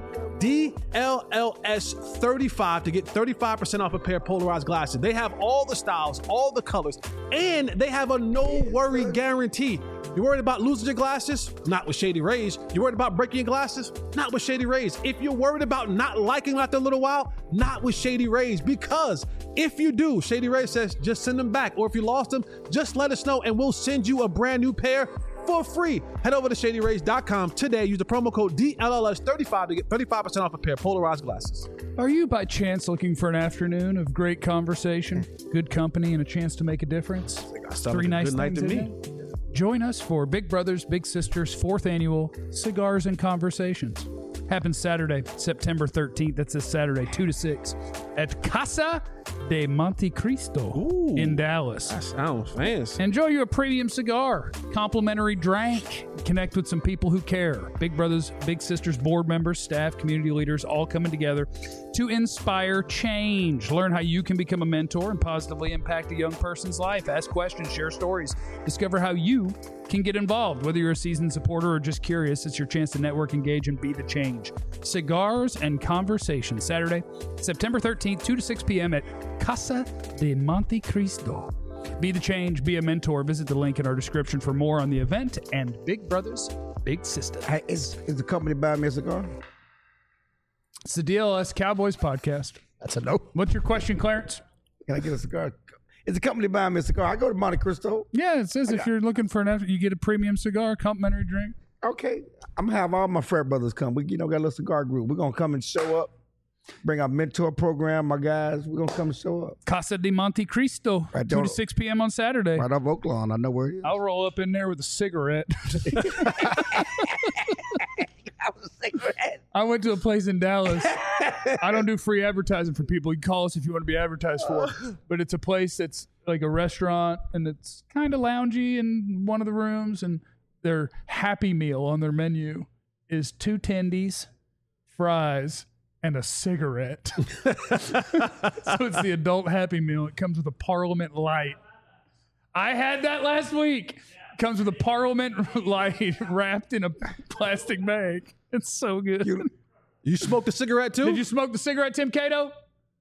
DLLS35 to get 35% off a pair of polarized glasses. They have all the styles, all the colors, and they have a no-worry guarantee. You worried about losing your glasses? Not with Shady Rays. You worried about breaking your glasses? Not with Shady Rays. If you're worried about not liking them after a little while, not with Shady Rays. Because if you do, Shady Rays says just send them back. Or if you lost them, just let us know and we'll send you a brand new pair for free. Head over to ShadyRays.com today. Use the promo code DLLS35 to get 35% off a pair of polarized glasses. Are you by chance looking for an afternoon of great conversation, good company, and a chance to make a difference? Three nice things in it? Join us for Big Brothers Big Sisters 4th Annual Cigars and Conversations. Happens Saturday, September 13th. That's this Saturday, 2 to 6 at Casa de Monte Cristo in Dallas. That sounds fancy. Enjoy your premium cigar, complimentary drink, connect with some people who care. Big Brothers Big Sisters board members, staff, community leaders, all coming together to inspire change. Learn how you can become a mentor and positively impact a young person's life. Ask questions, share stories, discover how you can get involved. Whether you're a seasoned supporter or just curious, it's your chance to network, engage, and be the change. Cigars and Conversation, Saturday, September 13th, 2 to 6 p.m. at Casa de Monte Cristo. Be the change, be a mentor. Visit the link in our description for more on the event and Big Brothers Big Sisters. Hey, is the company buying me a cigar? It's the DLS Cowboys podcast. That's a no. What's your question, Clarence? Can I get a cigar? Is the company buying me a cigar? I go to Monte Cristo. Yeah, it says if you're looking for you get a premium cigar, complimentary drink. Okay. I'm going to have all my frat brothers come. We got a little cigar group. We're going to come and show up. Bring our mentor program, my guys. We're going to come and show up. Casa de Monte Cristo, Right 2 to 6 p.m. on Saturday. Right off Oaklawn. I know where it is. I'll roll up in there with a cigarette. I went to a place in Dallas. I don't do free advertising for people. You can call us if you want to be advertised for. But it's a place that's like a restaurant, and it's kind of loungy in one of the rooms. And their Happy Meal on their menu is 2 tendies, fries, and a cigarette. So it's the adult Happy Meal. It comes with a Parliament Light. I had that last week. Comes with a Parliament Light wrapped in a plastic bag. It's so good. You smoked a cigarette too? Did you smoke the cigarette, Tim Cato?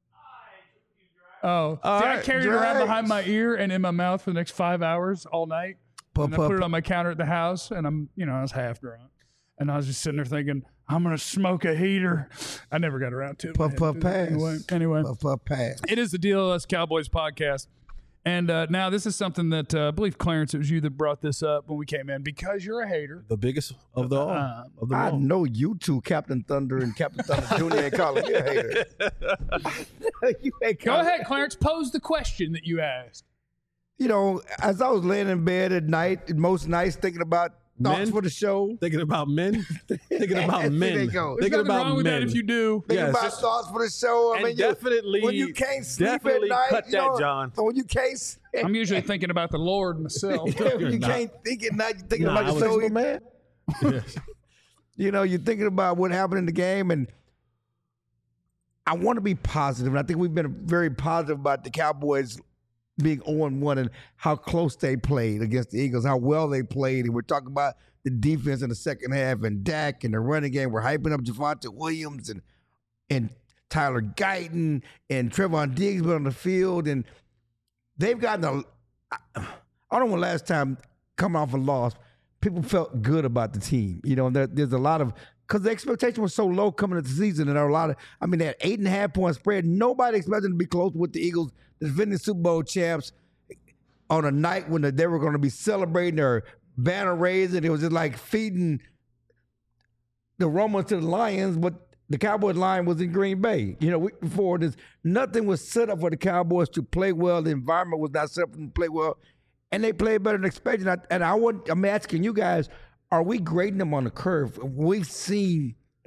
Oh, All I right, carried it around behind my ear and in my mouth for the next 5 hours all night. And I put it on my counter at the house, and I was half drunk. And I was just sitting there thinking, I'm going to smoke a heater. I never got around to it. Puff, puff, pass. Anyway. Puff, puff, pass. It is the DLS Cowboys podcast. And now this is something that I believe, Clarence, it was you that brought this up when we came in because you're a hater. The biggest of the all. I know you two, Captain Thunder and Captain Thunder Jr. ain't calling you a hater. You ain't Go calling- ahead, Clarence. Pose the question that you asked. You know, as I was laying in bed at night, most nights thinking about thoughts Men? for the show. Thinking about men? Thinking about There men. they go. There's Thinking nothing about wrong with men. that if you do. Thinking Yes. about thoughts for the show. I And mean, definitely- when you can't sleep at definitely night, cut you that, know, John. When you can't, I'm usually thinking about the Lord myself. when you not. can't think at night, you're thinking Nah, about I the show, was- man. You know, you're thinking about what happened in the game, and I want to be positive, and I think we've been very positive about the Cowboys being 0-1 and how close they played against the Eagles, how well they played, and we're talking about the defense in the second half and Dak and the running game. We're hyping up Javonte Williams and Tyler Guyton and Trevon Diggs on the field, and they've gotten I don't know when last time coming off a loss, people felt good about the team. You know, there's a lot of, because the expectation was so low coming into the season, and there are a lot of, I mean, that 8.5 point spread, nobody expected them to be close with the Eagles, the defending Super Bowl champs, on a night when they were going to be celebrating their banner raising. It was just like feeding the Romans to the Lions, but the Cowboys line was in Green Bay. You know, week before this, nothing was set up for the Cowboys to play well. The environment was not set up for them to play well, and they played better than expected. I'm asking you guys, are we grading them on the curve? We've seen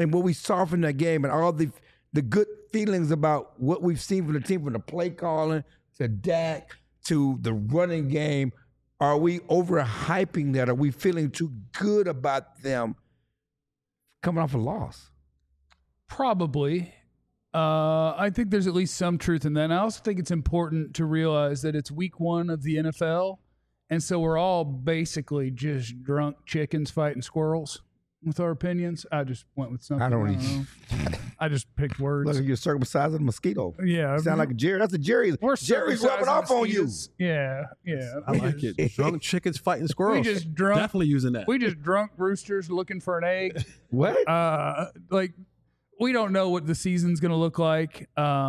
and what we saw from that game and all the good feelings about what we've seen from the team, from the play calling to Dak to the running game, are we overhyping that? Are we feeling too good about them coming off a loss? Probably. I think there's at least some truth in that. And I also think it's important to realize that it's week 1 of the NFL. And so we're all basically just drunk chickens fighting squirrels with our opinions. I just went with something. I don't know. I just picked words. Look, you're circumcising a mosquito. Yeah. You sound like a Jerry. That's a Jerry. Jerry's rubbing off on you. Yeah. I like it. Drunk chickens fighting squirrels. We just drunk. Definitely using that. We just drunk roosters looking for an egg. What? We don't know what the season's going to look like.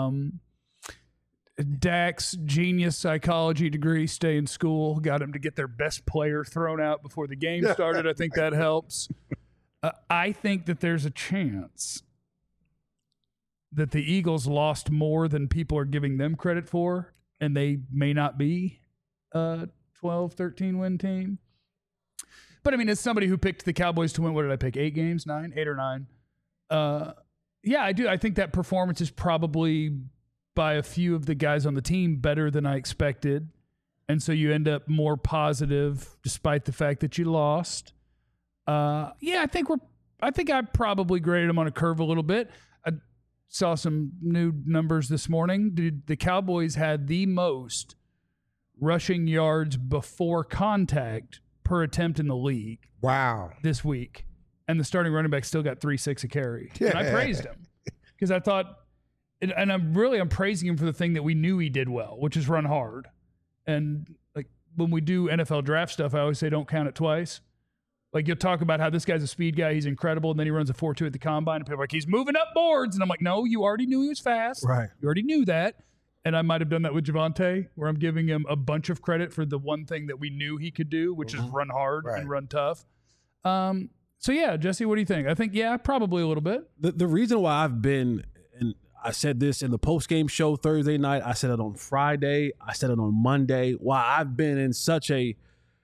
Dak's genius psychology degree, stay in school, got him to get their best player thrown out before the game started. I think that helps. I think that there's a chance that the Eagles lost more than people are giving them credit for, and they may not be a 12, 13 win team. But I mean, as somebody who picked the Cowboys to win, what did I pick? 8 games? 9? 8 or 9? Yeah, I do. I think that performance is probably by a few of the guys on the team better than I expected. And so you end up more positive despite the fact that you lost. I think I probably graded them on a curve a little bit. I saw some new numbers this morning. Dude, the Cowboys had the most rushing yards before contact per attempt in the league. Wow. This week. And the starting running back still got 3.6 a carry. And I praised him because I thought, and I'm praising him for the thing that we knew he did well, which is run hard. And like when we do NFL draft stuff, I always say don't count it twice. Like you'll talk about how this guy's a speed guy, he's incredible, and then he runs a 4.2 at the combine, and people are like, he's moving up boards. And I'm like, no, you already knew he was fast. Right. You already knew that. And I might have done that with Javonte, where I'm giving him a bunch of credit for the one thing that we knew he could do, which is run hard and run tough. So, yeah, Jesse, what do you think? I think, yeah, probably a little bit. The reason why I've been, and I said this in the post-game show Thursday night, I said it on Friday, I said it on Monday, why I've been in such a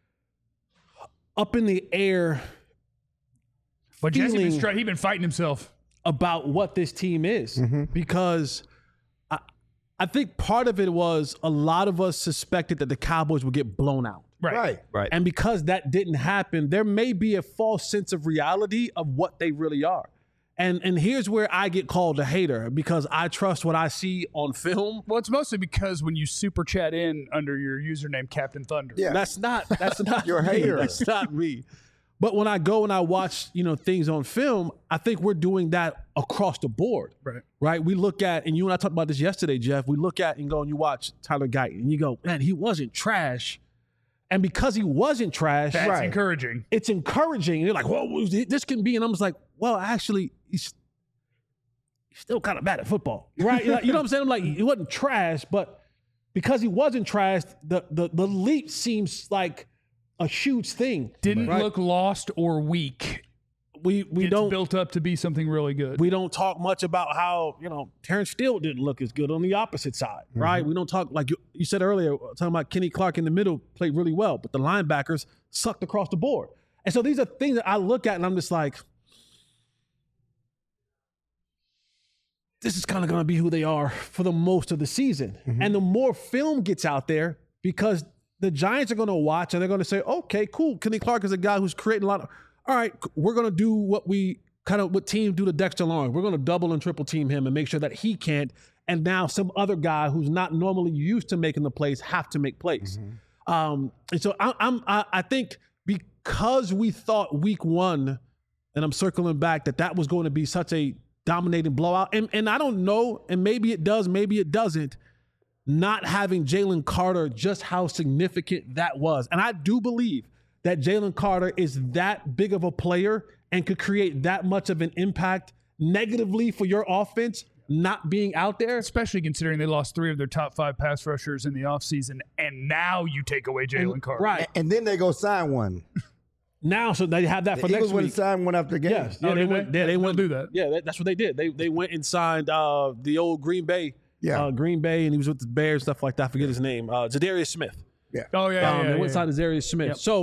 up in the air But Jesse he's been fighting himself about what this team is. Because I think part of it was a lot of us suspected that the Cowboys would get blown out. Right. And because that didn't happen, there may be a false sense of reality of what they really are. And here's where I get called a hater because I trust what I see on film. Well, it's mostly because when you super chat in under your username Captain Thunder. Yeah. That's not You're a hater. That's not me. But when I go and I watch, things on film, I think we're doing that across the board. Right? We look at, and you and I talked about this yesterday, Jeff, we look at and go and you watch Tyler Guyton and you go, man, he wasn't trash. And because he wasn't trash, that's encouraging. It's encouraging. And you're like, whoa, this can be. And I'm just like, well, actually, he's still kind of bad at football. Right? You know what I'm saying? I'm like, he wasn't trash, but because he wasn't trash, the leap seems like a huge thing. Didn't look lost or weak. We don't built up to be something really good. We don't talk much about how, Terrence Steele didn't look as good on the opposite side, right? We don't talk, like you said earlier, talking about Kenny Clark in the middle played really well, but the linebackers sucked across the board. And so these are things that I look at and I'm just like, this is kind of going to be who they are for the most of the season. And the more film gets out there, because the Giants are going to watch and they're going to say, okay, cool. Kenny Clark is a guy who's creating a lot of, all right, we're going to do what teams do to Dexter Lawrence. We're going to double and triple team him and make sure that he can't. And now some other guy who's not normally used to making the plays have to make plays. And so I think because we thought week 1, and I'm circling back, that was going to be such a dominating blowout. And I don't know, and maybe it does, maybe it doesn't, not having Jalen Carter, just how significant that was. And I do believe that Jalen Carter is that big of a player and could create that much of an impact negatively for your offense not being out there. Especially considering they lost 3 of their top 5 pass rushers in the offseason, and now you take away Jalen Carter. Right. And then they go sign one. Now, so they have that for next week. Eagles went and signed one after the game. Yes. Yeah, they went to do that. Yeah, that's what they did. They went and signed the old Green Bay. Yeah. Green Bay, and he was with the Bears, stuff like that. I forget his name. Zadarius Smith. Yeah. Oh, yeah. They went and signed Zadarius Smith. Yep. So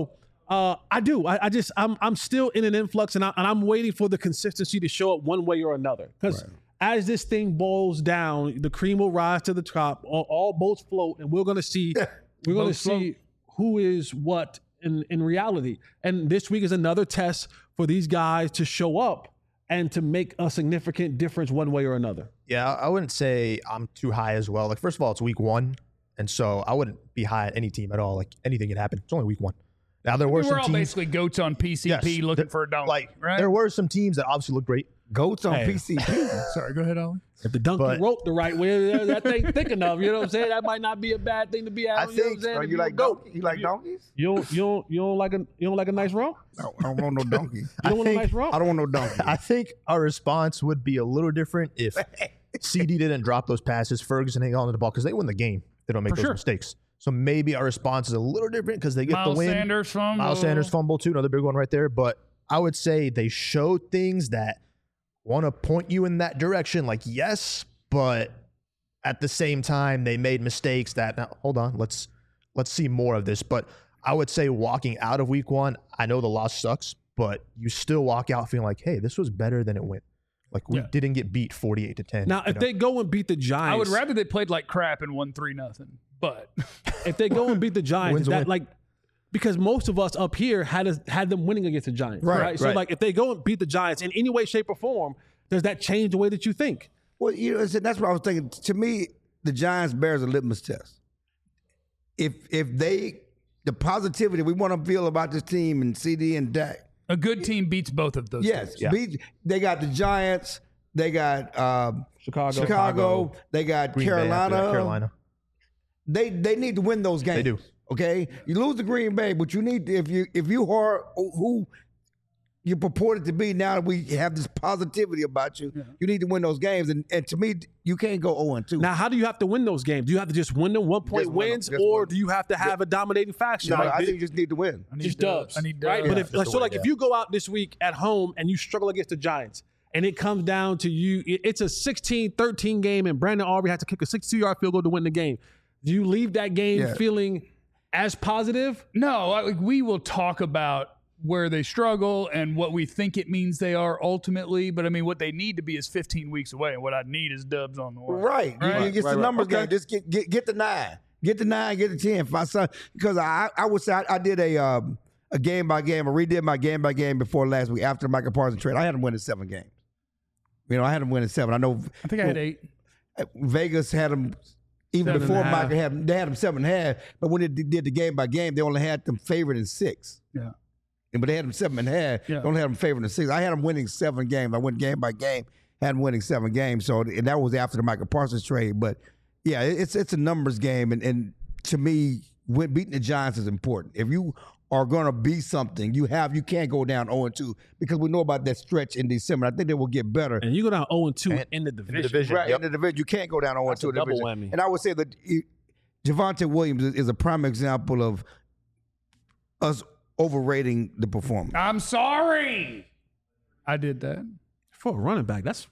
I do. I'm still in an influx, and I'm waiting for the consistency to show up one way or another. Because as this thing boils down, the cream will rise to the top. All boats float, and we're going to see. We're going to see who is what in reality. And this week is another test for these guys to show up and to make a significant difference one way or another. Yeah, I wouldn't say I'm too high as well. Like, first of all, it's week 1, and so I wouldn't be high at any team at all. Like, anything can happen. It's only week 1. Now, there were some we're all teams, basically goats on PCP looking for a donkey, right? There were some teams that obviously look great. Goats on PCP. Sorry, go ahead, Ollie. If the donkey wrote the right way, that thing thick enough. You know what I'm saying? That might not be a bad thing to be out. I think. You like donkeys? You like donkeys? You don't like a nice rump? No, I don't want no donkey. You don't want a nice rump? I don't want no donkey. I think our response would be a little different if CD didn't drop those passes, Ferguson hang on to the ball, because they win the game. They don't make those mistakes. So maybe our response is a little different because they get the win. Miles Sanders fumble too, another big one right there. But I would say they showed things that want to point you in that direction. Like, yes, but at the same time, they made mistakes that, now, hold on, let's see more of this. But I would say walking out of week 1, I know the loss sucks, but you still walk out feeling like, hey, this was better than it went. Like, we didn't get beat 48-10. Now, if they go and beat the Giants, I would rather they played like crap and won 3-0. But if they go and beat the Giants, because most of us up here had them winning against the Giants, right? So, like, if they go and beat the Giants in any way, shape, or form, does that change the way that you think? Well, that's what I was thinking. To me, the Giants bears a litmus test. If the positivity we want to feel about this team and CD and Dak, a good team beats both of those. Yes, they got the Giants, they got Chicago, they got Carolina. They need to win those games. They do. Okay, you lose to Green Bay, but you need to, if you are who you purported to be, now that we have this positivity about you, you need to win those games. And to me, you can't go 0-2. Now, how do you have to win those games? Do you have to just win them 1 point wins, or do you have to have a dominating faction? No, I think you just need to win. Just dubs. I need dubs. Right? But if you go out this week at home and you struggle against the Giants, and it comes down to it's a 16-13 game, and Brandon Aubrey has to kick a 62-yard field goal to win the game. Do you leave that game feeling as positive? No, we will talk about where they struggle and what we think it means they are ultimately. But, I mean, what they need to be is 15 weeks away, and what I need is dubs on the way. Right. It's the numbers game. Just get the 9. Get the 9, get the 10. Because I would say I did a game-by-game, I redid my game-by-game before last week after the Michael Parsons trade. I had them winning 7 games. I had them winning 7. I think I had 8. Vegas had them. Even before Michael they had them 7.5, but when they did the game by game, they only had them favored in 6. Yeah. But they had them 7.5. They only had them favored in 6. I had them winning 7 games. I went game by game, had them winning 7 games. So, and that was after the Michael Parsons trade. But yeah, it's a numbers game, and to me, beating the Giants is important. If you are going to be something, you can't go down 0-2 because we know about that stretch in December. I think they will get better. And you go down 0-2 in the division. Right, in the division. You can't go down 0-2 in the double division. whammy. And I would say that Javonte Williams is a prime example of us overrating the performance. I'm sorry. I did that. For a running back, that's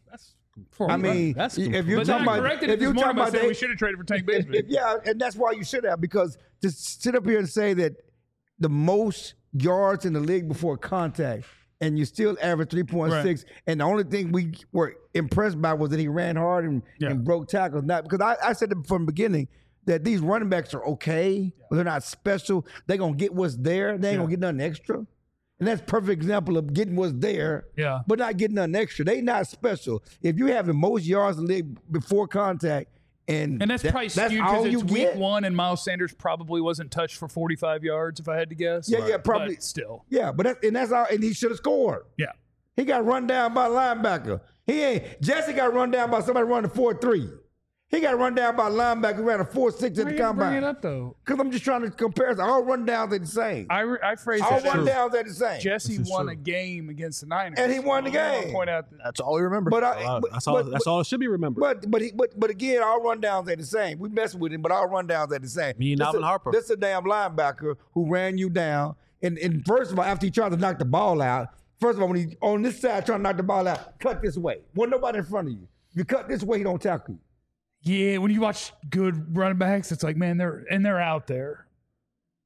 if you're talking about we should have traded for Tank Bigsby. And that's why you should have, because to sit up here and say that the most yards in the league before contact, and you still average 3.6, and the only thing we were impressed by was that he ran hard and broke tackles. Not because I said from the beginning that these running backs are okay, but they're not special. They're gonna get what's there. They ain't gonna get nothing extra. And that's a perfect example of getting what's there, but not getting nothing extra. They not special. If you have the most yards in the league before contact, and that's probably skewed because it's week 1 and Miles Sanders probably wasn't touched for 45 yards, if I had to guess. Yeah, probably. But still. Yeah, but that's all, and he should have scored. Yeah. He got run down by a linebacker. Jesse got run down by somebody running 4.3. He got run down by a linebacker who ran a 4.6 at the combine. Bring it up though, because I'm just trying to compare. All rundowns are the same. I phrased all it. All rundowns are the same. Jesse won a game against the Niners, and he won the game. Point out that's all we remember. That's all it should be remembered. But again, all rundowns are the same. We mess with him, but all rundowns are the same. Me and Alvin Harper. This is a damn linebacker who ran you down. And first of all, after he tried to knock the ball out, first of all, when he on this side trying to knock the ball out, cut this way. Wasn't nobody in front of you. You cut this way, he don't tackle you. Yeah, when you watch good running backs, it's like, man, they're out there.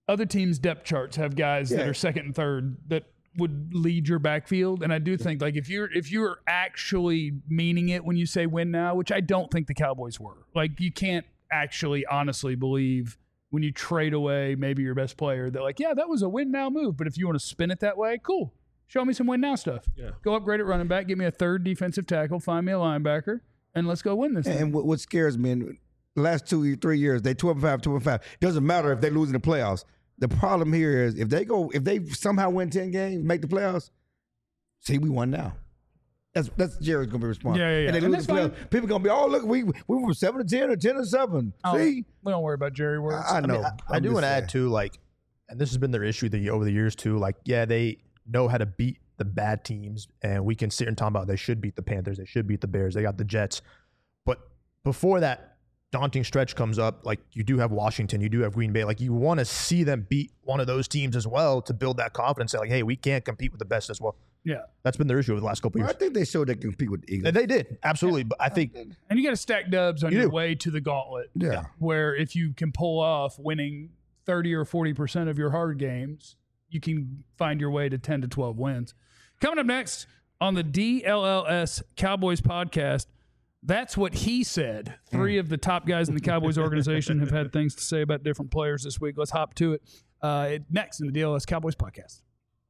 other teams' depth charts have guys that are second and third that would lead your backfield. And I do think, like, if you're actually meaning it when you say win now, which I don't think the Cowboys were. Like, you can't actually honestly believe when you trade away maybe your best player that, like, yeah, that was a win now move. But if you want to spin it that way, cool. Show me some win now stuff. Yeah. Go upgrade at running back, give me a third defensive tackle, find me a linebacker, and let's go win this thing. And what scares me, in the last 2-3 years, they 12-5, 12-5. It doesn't matter if they lose in the playoffs. The problem here is if they somehow win 10 games, make the playoffs, see, we won now. That's Jerry's gonna be responsible. Yeah. And they lose the playoffs. People gonna be, oh, look, we were 7-10 or 10-7. See, we don't worry about Jerry words. I know. I do want to add too, like, and this has been their issue over the years too. Like, yeah, they know how to beat the bad teams, and we can sit here and talk about they should beat the Panthers, they should beat the Bears, they got the Jets, but before that daunting stretch comes up, like, you do have Washington, you do have Green Bay, like, you want to see them beat one of those teams as well to build that confidence, say, like, hey, we can't compete with the best as well. Yeah, that's been their issue over the last couple of years. I think they showed they can compete with the Eagles. They did, absolutely, but I think, and you got to stack dubs on your way to the gauntlet. Yeah, where if you can pull off winning 30 or 40% of your hard games, you can find your way to 10 to 12 wins. Coming up next on the DLLS Cowboys podcast, that's what he said. 3 of the top guys in the Cowboys organization have had things to say about different players this week. Let's hop to it next in the DLLS Cowboys podcast.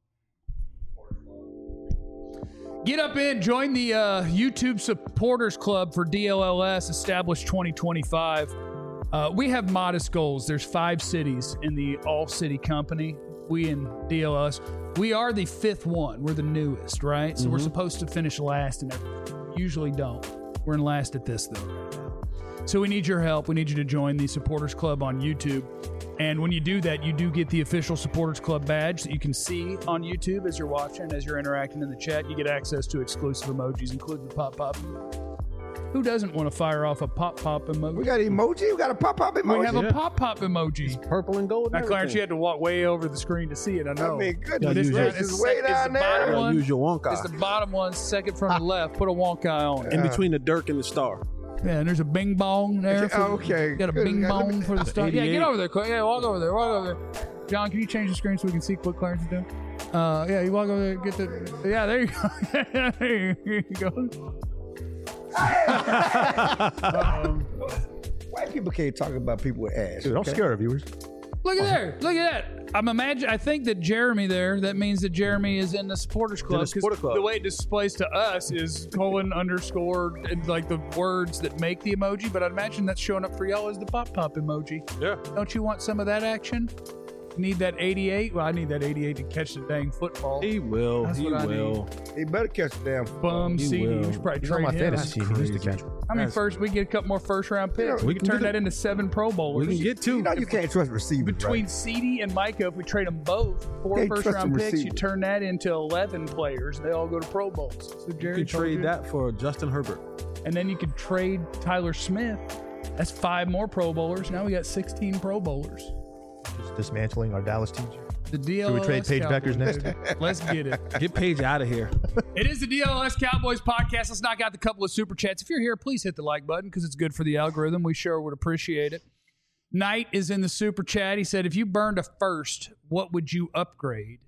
Get up in, join the YouTube Supporters Club for DLLS, established 2025. We have modest goals. There's 5 cities in the all-city company. We in DLS, we are the 5th one. We're the newest, right? So we're supposed to finish last and everything. Usually don't. We're in last at this, though, right now. So we need your help. We need you to join the Supporters Club on YouTube. And when you do that, you do get the official Supporters Club badge that you can see on YouTube as you're watching, as you're interacting in the chat. You get access to exclusive emojis, including the pop-pop. Who doesn't want to fire off a pop-pop emoji? We got an emoji. We got a pop-pop emoji. We have a pop-pop emoji. It's purple and gold. Now, Clarence, you had to walk way over the screen to see it. I know. I mean, goodness, this is way down there. Use your Wonka. It's the bottom one, second from the left. Put a Wonka on it. In between the Dirk and the star. Yeah, and there's a bing bong there. Okay. Got a bing bong for the star. Yeah, get over there. Yeah, walk over there. Walk over there. John, can you change the screen so we can see what Clarence is doing? Yeah, you walk over there. Get the. Yeah, there you go. There you go. White people can't talk about people with ass. Dude, don't scare our viewers. Look at there. Look at that. I think that Jeremy there, that means that Jeremy is in the Supporters Club. The way it displays to us is :_ and like the words that make the emoji, but I'd imagine that's showing up for y'all as the pop-pop emoji. Yeah. Don't you want some of that action? Need that 88? Well, I need that 88 to catch the dang football. He will. That's he what I will. He better catch the damn bum CD. We should probably trade my him. fantasy team. He needs to catch one. I mean, first we get a couple more first-round picks. Yeah, we can turn that into 7 Pro Bowlers. We can get 2. You know you can't trust receivers. Between right? CD and Micah, if we trade them both, 4 Can't first-round trust them picks, you receivers. turn that into 11 players. They all go to Pro Bowls. So Jerry You can trade that for Justin Herbert. And then you could trade Tyler Smith. That's 5 more Pro Bowlers. Now we got 16 Pro Bowlers. Just dismantling our Dallas teams. The DLS Should we trade Paige Cowboys, Beckers next? baby. Let's get it. Get Paige out of here. It is the DLS Cowboys podcast. Let's knock out the couple of super chats. If you're here, please hit the like button because it's good for the algorithm. We sure would appreciate it. Knight is in the super chat. He said, if you burned a first, what would you upgrade?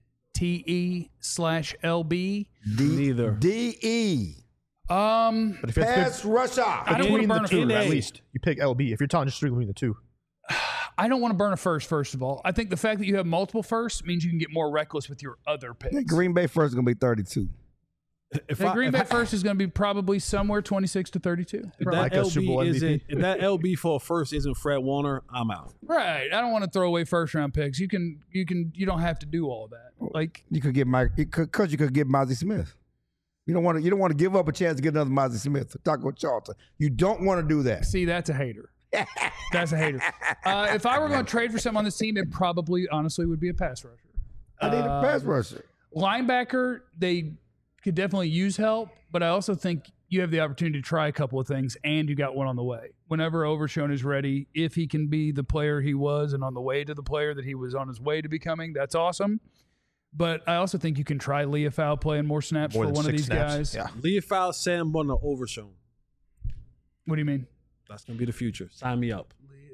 TE/LB? Neither. DE. But if Pass rusher. I don't want to burn a two, first. at least you pick LB. If you're talking just between the 2, I don't want to burn a first of all. I think the fact that you have multiple firsts means you can get more reckless with your other picks. Green Bay first is going to be 32. The Green Bay first is going to be probably somewhere 26 to 32. If Right. that, Super Bowl LB MVP. isn't, if that LB for a first isn't Fred Warner, I'm out. Right. I don't want to throw away first round picks. You don't have to do all of that. Like You could get because you could get Mozzie Smith. You don't want to give up a chance to get another Mozzie Smith. Taco Charlton. You don't want to do that. see, that's a hater. That's a hater. If I were going to trade for someone on this team, it probably honestly would be a pass rusher. I need a pass rusher. Linebacker, they could definitely use help, but I also think you have the opportunity to try a couple of things, and you got one on the way. Whenever Overshone is ready, if he can be the player he was and on the way to the player that he was on his way to becoming, that's awesome. But I also think you can try Leofau playing more snaps More for than one of 6 these snaps. guys. Yeah. Leofau, Sam Bunner, Overshown. What do you mean? That's going to be the future. Sign me up.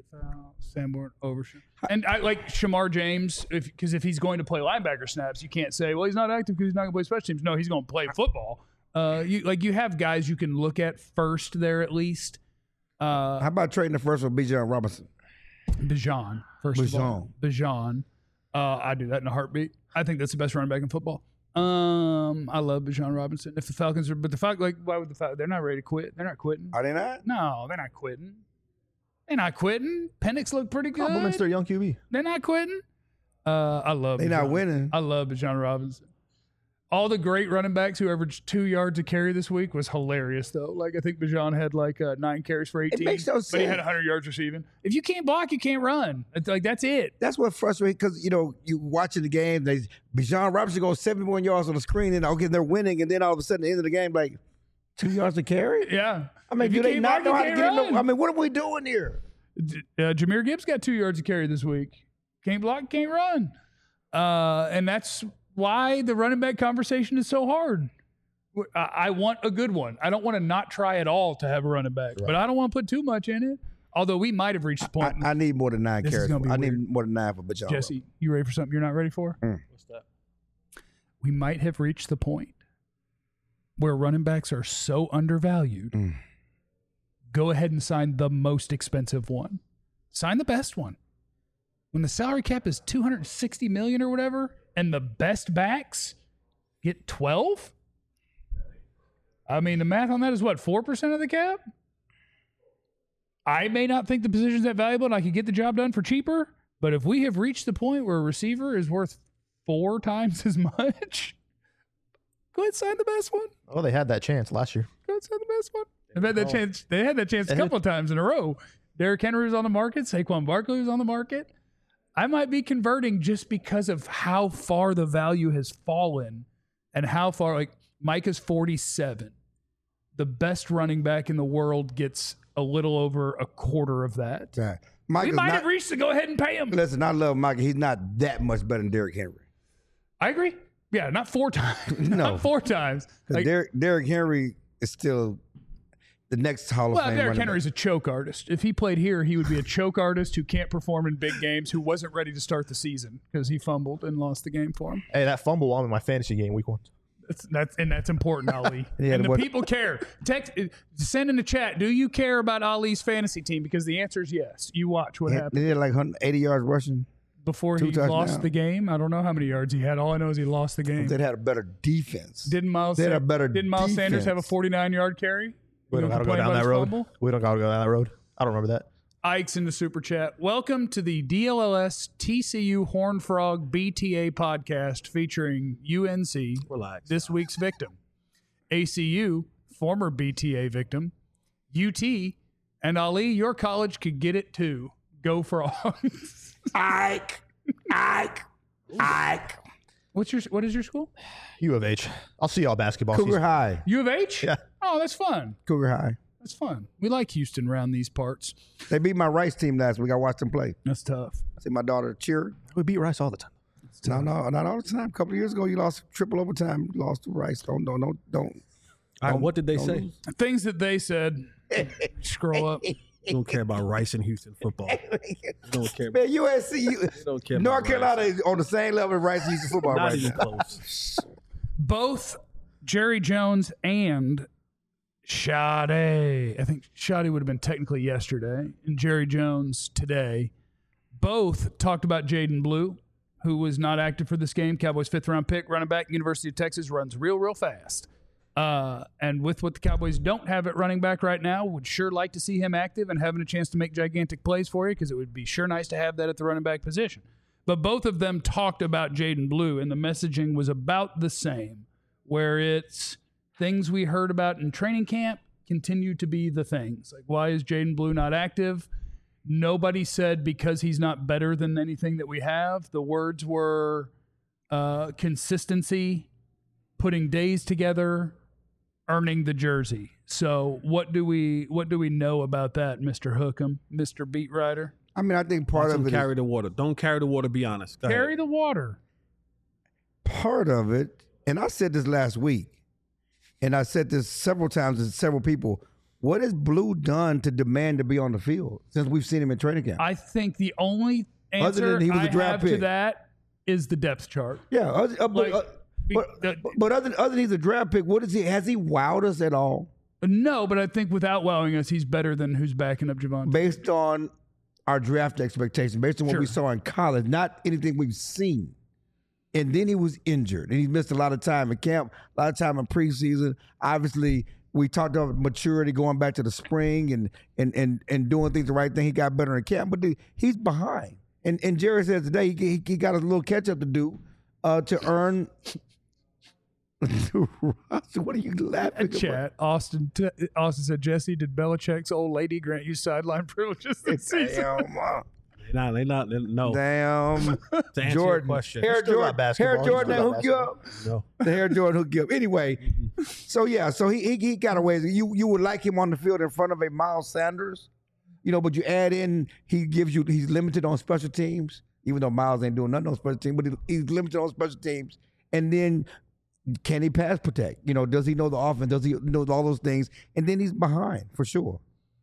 Sanborn, Overshown. And I like Shamar James because if he's going to play linebacker snaps, you can't say, well, he's not active because he's not going to play special teams. No, he's going to play football. You have guys you can look at first there at least. How about trading the first with Bijan Robinson? Bijan, first of all. Bijan. I'd do that in a heartbeat. I think that's the best running back in football. I love Bijan Robinson. If the Falcons are, but the Falcons, like, why would the Falcons? They're not ready to quit. They're not quitting. Are they not? No, they're not quitting. They're not quitting. Penix look pretty good. Compliments their young QB. They're not quitting. I love. They're not winning. I love Bijan Robinson. All the great running backs who averaged 2 yards a carry this week was hilarious, though. Like, I think Bijan had 9 carries for 18. It makes no sense. But he had 100 yards receiving. If you can't block, you can't run. It's like, that's it. That's what frustrates because, you watching the game, Bijan Robinson goes 71 yards on the screen, and they're winning, and then all of a sudden, at the end of the game, 2 yards a carry? Yeah. I mean, do they not know how to get him? I mean, what are we doing here? Jameer Gibbs got 2 yards a carry this week. Can't block, can't run. And that's why the running back conversation is so hard. I want a good one. I don't want to not try at all to have a running back, but I don't want to put too much in it. Although we might have reached the point. I need more than 9 carries. I need more than 9 for Bijan. Jesse, you ready for something you're not ready for? What's that? We might have reached the point where running backs are so undervalued. Go ahead and sign the most expensive one. Sign the best one. When the salary cap is $260 million or whatever, and the best backs get 12? I mean, the math on that is what, 4% of the cap? I may not think the position's that valuable and I could get the job done for cheaper, but if we have reached the point where a receiver is worth 4 times as much, go ahead and sign the best one. Oh, they had that chance last year. Go ahead and sign the best one. They had that chance a couple of times in a row. Derrick Henry was on the market. Saquon Barkley was on the market. I might be converting just because of how far the value has fallen and how far, Mike is 47. The best running back in the world gets a little over a quarter of that. Right. We might have reached to go ahead and pay him. Listen, I love Mike. He's not that much better than Derrick Henry. I agree. Yeah, not 4 times. No. Not 4 times. Derrick Henry is still the next Hall of Fame. Well, Derrick Henry's a choke artist. If he played here, he would be a choke artist who can't perform in big games, who wasn't ready to start the season because he fumbled and lost the game for him. Hey, that fumble won in my fantasy game week 1. That's important, Ali. And the people care. Send in the chat, do you care about Ali's fantasy team? Because the answer is yes. You watch what happened. They had 180 yards rushing. Before he lost the game, I don't know how many yards he had. All I know is he lost the game. They had a better defense. Didn't Miles Sanders have a 49-yard carry? We don't got to go down that road. We don't got to go down that road. I don't remember that. Ike's in the super chat. Welcome to the DLLS TCU Horned Frog BTA podcast featuring UNC, this week's victim, ACU, former BTA victim, UT, and Ali, your college could get it too. Go Frogs. Ike. What is your school? U of H. I'll see y'all basketball Cougar season. High. U of H? Yeah. Oh, that's fun. Cougar High. That's fun. We like Houston around these parts. They beat my Rice team last week. I watched them play. That's tough. I see my daughter cheer. We beat Rice all the time. No, not all the time. A couple of years ago, you lost triple overtime. You lost to Rice. Don't. All right, what did they say? Lose. Things that they said. Scroll up. Don't care about Rice and Houston football. Don't care. Man, USC, don't care. North Carolina is on the same level as Rice and Houston football Not right even now. close. Both Jerry Jones and Sade, I think Sade would have been technically yesterday, and Jerry Jones today, both talked about Jaden Blue, who was not active for this game. Cowboys' 5th-round pick, running back, University of Texas, runs real fast. And with what the Cowboys don't have at running back right now, would sure like to see him active and having a chance to make gigantic plays for you, because it would be sure nice to have that at the running back position. But both of them talked about Jaden Blue, and the messaging was about the same, where it's things we heard about in training camp continue to be the things. Like, why is Jaden Blue not active? Nobody said because he's not better than anything that we have. The words were consistency, putting days together, earning the jersey. So what do we know about that, Mr. Hookham, Mr. Beat Writer? I mean, I think part of it carry the water. Don't carry the water. Be honest. Go carry ahead. the water. Part of it, and I said this last week, and I said this several times to several people. What has Blue done to demand to be on the field since we've seen him in training camp? I think the only answer than he was a I draft have to pick. that is the depth chart. Yeah, Like, but other than he's a draft pick, what is he? Has he wowed us at all No, but I think without wowing us, he's better than who's backing up Javonte. based on our draft expectations, based on what we Sure. saw in college, not anything we've seen? And then he was injured, and he missed a lot of time in camp, a lot of time in preseason. Obviously, we talked about maturity going back to the spring and doing things the right thing. He got better in camp, but he's behind. And Jerry says today he got a little catch up to do to earn. What are you laughing about? Chat. Austin said, Jesse, did Belichick's old lady grant you sideline privileges this season? Damn, They not. No. damn. To answer your Jordan. question. Hair Still got Jordan. basketball. Hair Still Jordan got that hook you up. No. The Hair Jordan hook you up. Anyway, so he got away. You would like him on the field in front of a Miles Sanders, but you add in he's limited on special teams, even though Miles ain't doing nothing on special teams, but he's limited on special teams. And then can he pass protect? Does he know the offense? Does he know all those things? And then he's behind for sure.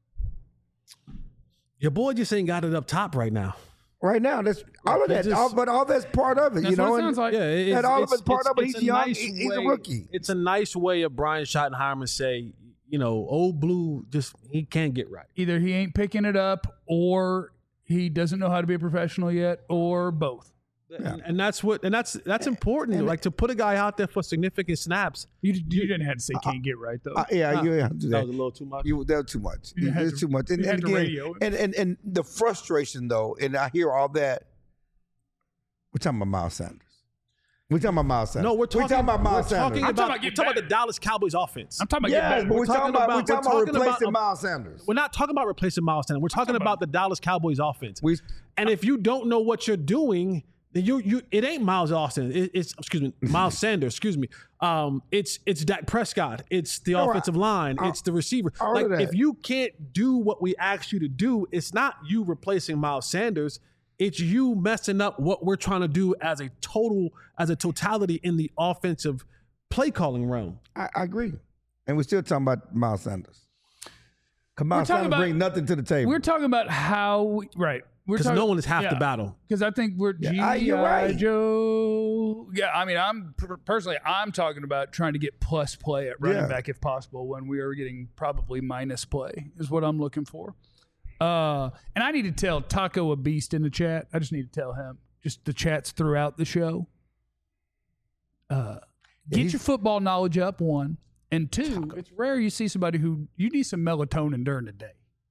Your boy just ain't got it up top right now. Right now, that's all of that. But all that's part of it. That's what it sounds like. Yeah, That all of it's part of it. He's young. nice He's a way- rookie. It's a nice way of Brian Schottenheimer say, old Blue he can't get right. Either he ain't picking it up, or he doesn't know how to be a professional yet, or both. And that's important. Like to put a guy out there for significant snaps. You didn't have to say can't get right though. You have to do That that. was a little too much. That was too much. You had It's to- too much. And, you had and to again, radio it. and the frustration though, and I hear all that. We're talking about Miles Sanders. We're talking about Miles Sanders. No, we're talking about Miles Sanders. I'm talking about we're talking about the Dallas Cowboys offense. I'm talking about Yes, getting but better. we're talking about replacing Miles Sanders. We're not talking about replacing Miles Sanders. We're talking about the Dallas Cowboys offense. We- And if you don't know what you're doing, then it ain't Miles Austin. It's Miles Sanders. Excuse me. It's Dak Prescott. It's the offensive line. It's the receiver. all Like of that. if you can't do what we asked you to do, it's not you replacing Miles Sanders. It's you messing up what we're trying to do as a totality in the offensive play calling realm. I agree. And we're still talking about Miles Sanders. Because Miles talking Sanders about- bring nothing to the table. We're talking about how right. Because no one is half the battle. Because I think we're you're G.I. right. Joe. Yeah, I mean, I'm talking about trying to get plus play at running Yeah. back if possible when we are getting probably minus play is what I'm looking for. And I need to tell Taco a beast in the chat. I just need to tell him. Just the chats throughout the show. Get your football knowledge up, one. And two, it's rare you see somebody who you need some melatonin during the day.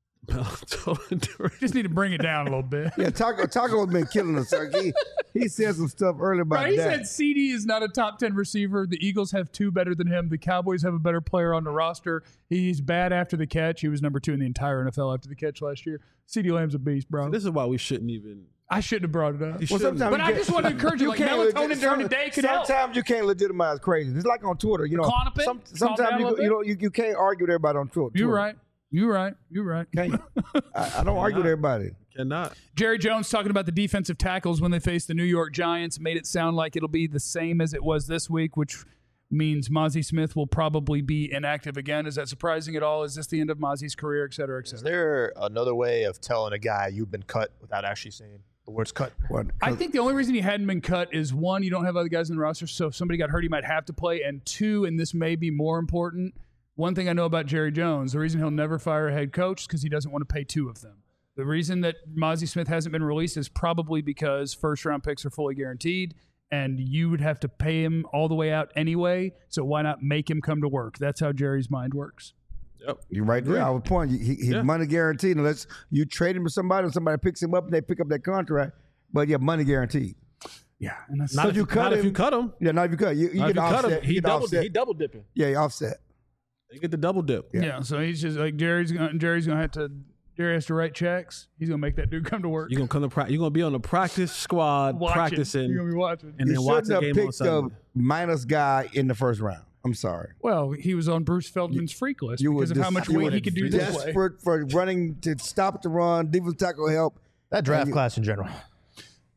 Just need to bring it down a little bit. Yeah, Taco's been killing us. He said some stuff earlier about Right, he that. said CD is not a top 10 receiver. The Eagles have two better than him. The Cowboys have a better player on the roster. He's bad after the catch. He was number 2 in the entire NFL after the catch last year. CD Lamb's a beast, bro. This is why we shouldn't even. I shouldn't have brought it up. Sometimes But you I can't- just want to encourage you, like can't melatonin during the day could help. Sometimes you can't legitimize crazy. It's like on Twitter, Clonopin? Calm down Sometimes a little you can't argue with everybody on Twitter. You're right. You're right. Can't you? I don't argue with everybody. Cannot. Jerry Jones talking about the defensive tackles when they face the New York Giants made it sound like it'll be the same as it was this week, which means Mozzie Smith will probably be inactive again. Is that surprising at all? Is this the end of Mozzie's career, et cetera, et Is cetera? there another way of telling a guy you've been cut without actually saying the words cut? What? I think the only reason he hadn't been cut is one, you don't have other guys in the roster, so if somebody got hurt, he might have to play. And two, and this may be more important, one thing I know about Jerry Jones, the reason he'll never fire a head coach is because he doesn't want to pay two of them. The reason that Mozzie Smith hasn't been released is probably because first-round picks are fully guaranteed, and you would have to pay him all the way out anyway, so why not make him come to work? That's how Jerry's mind works. You're right there. I would point. His money guaranteed unless you trade him to somebody and somebody picks him up and they pick up that contract. But yeah, money guaranteed. Yeah, and that's Not if you cut him. Yeah, not if you cut. You Not if get you cut him. offset. He You get offset. he double dipping. Yeah, you offset. They get the double dip. yeah. So he's just like Jerry has to write checks. He's gonna make that dude come to work. You're gonna come to practice. You're gonna be on the practice squad Watching. practicing, You're gonna be watching. and You then watch shouldn't the have game on picked Sunday. a minus guy in the first round. I'm sorry. Well, he was on Bruce Feldman's freak list because of how much you weight were he could do this way. desperate for running to stop the run, defensive tackle help. That draft class in general.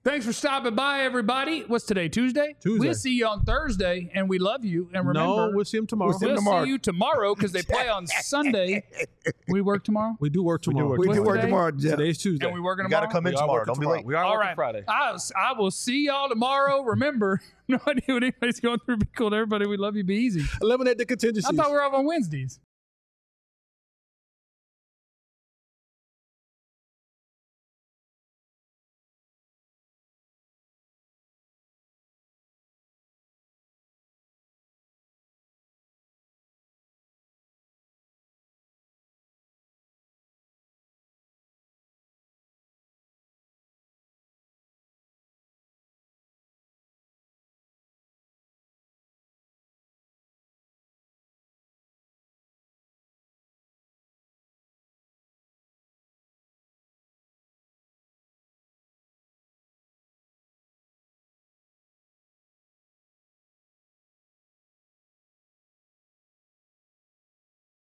Thanks for stopping by, everybody. What's today, Tuesday? Tuesday. We'll see you on Thursday, and we love you. And remember, No, we'll see him tomorrow. we'll see you tomorrow because they play on Sunday. We work tomorrow? We do work tomorrow. We do What's work today? tomorrow, Jeff. Today's Tuesday. And we working You tomorrow? got to come in We are tomorrow. working Don't be tomorrow. late. We are All working right. Friday. I will see y'all tomorrow. Remember, no idea what anybody's going through. Be cool to everybody. We love you. Be easy. Eliminate the contingencies. I thought we were off on Wednesdays.